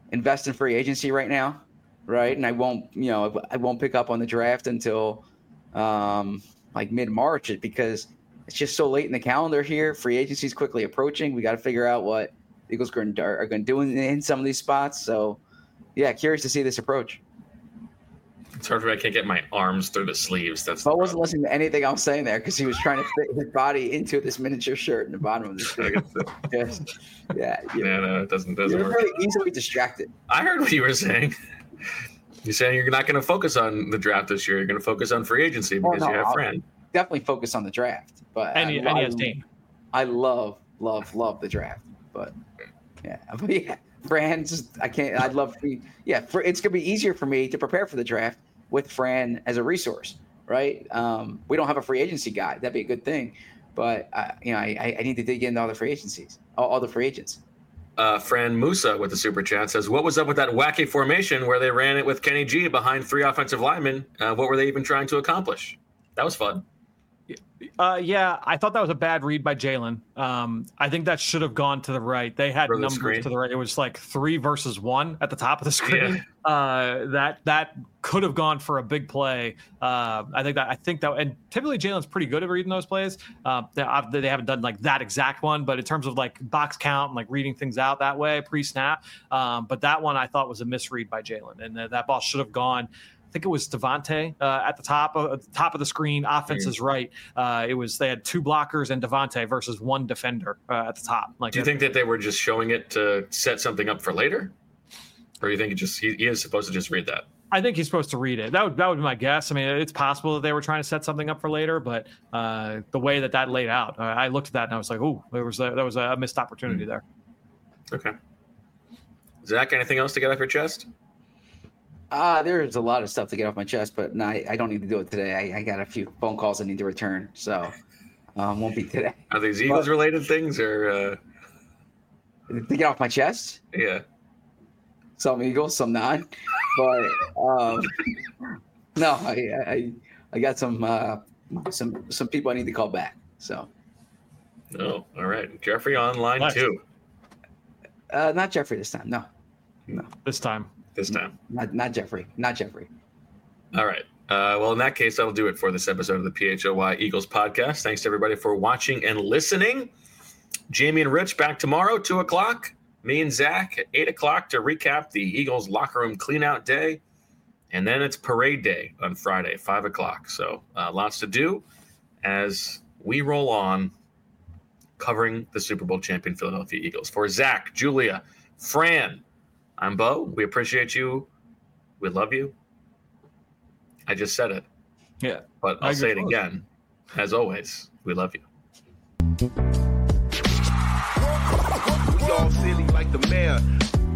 invest in free agency right now, right? And I won't pick up on the draft until like mid-March because it's just so late in the calendar here. Free agency is quickly approaching. We got to figure out what the Eagles are going to do in some of these spots. So, yeah, curious to see this approach. It's hard for me. I can't get my arms through the sleeves. I wasn't listening to anything I was saying there because he was trying to fit his body into this miniature shirt in the bottom of the shirt. Yeah. No, it doesn't You're work. very easily distracted. I heard what you were saying. You're saying you're not going to focus on the draft this year. You're going to focus on free agency because you have Fran. Definitely focus on the draft, but and he has Dame. I love the draft, but Fran. I'd love. It's gonna be easier for me to prepare for the draft with Fran as a resource, right? We don't have a free agency guy. That'd be a good thing, but I need to dig into all the free agencies, all the free agents. Fran Musa with the super chat says, "What was up with that wacky formation where they ran it with Kenny G behind 3 offensive linemen? What were they even trying to accomplish?" That was fun. I thought that was a bad read by Jalen. I think that should have gone to the right. They had numbers to the right. It was like 3 versus 1 at the top of the screen. Yeah. That could have gone for a big play. I think that, and typically Jalen's pretty good at reading those plays. They haven't done like that exact one, but in terms of like box count and like reading things out that way pre-snap. But that one I thought was a misread by Jalen, and that ball should have gone. I think it was Devontae at the top of the screen. Offense is right. They had 2 blockers and Devontae versus 1 defender at the top. Do you think that they were just showing it to set something up for later, or do you think he is supposed to just read that? I think he's supposed to read it. That would be my guess. I mean, it's possible that they were trying to set something up for later, but the way that laid out, I looked at that and I was like, "Ooh, that was a missed opportunity there." Okay, Zach, anything else to get off your chest? There's a lot of stuff to get off my chest, but no, I don't need to do it today. I got a few phone calls I need to return, so won't be today. Are these Eagles-related things, or to get off my chest? Yeah, some Eagles, some not. But no, I got some people I need to call back. So. Oh, all right, Jeffrey on line 2. Not Jeffrey this time. No. This time. Not Jeffrey. All right. Well, in that case, that'll do it for this episode of the PHOY Eagles podcast. Thanks to everybody for watching and listening. Jamie and Rich back tomorrow, 2:00. Me and Zach at 8:00 to recap the Eagles locker room cleanout day. And then it's parade day on Friday, 5:00. So lots to do as we roll on covering the Super Bowl champion Philadelphia Eagles. For Zach, Julia, Fran, I'm Bo. We appreciate you. We love you. I just said it. Yeah. But I'll say it again. As always, we love you. We all silly like the mayor.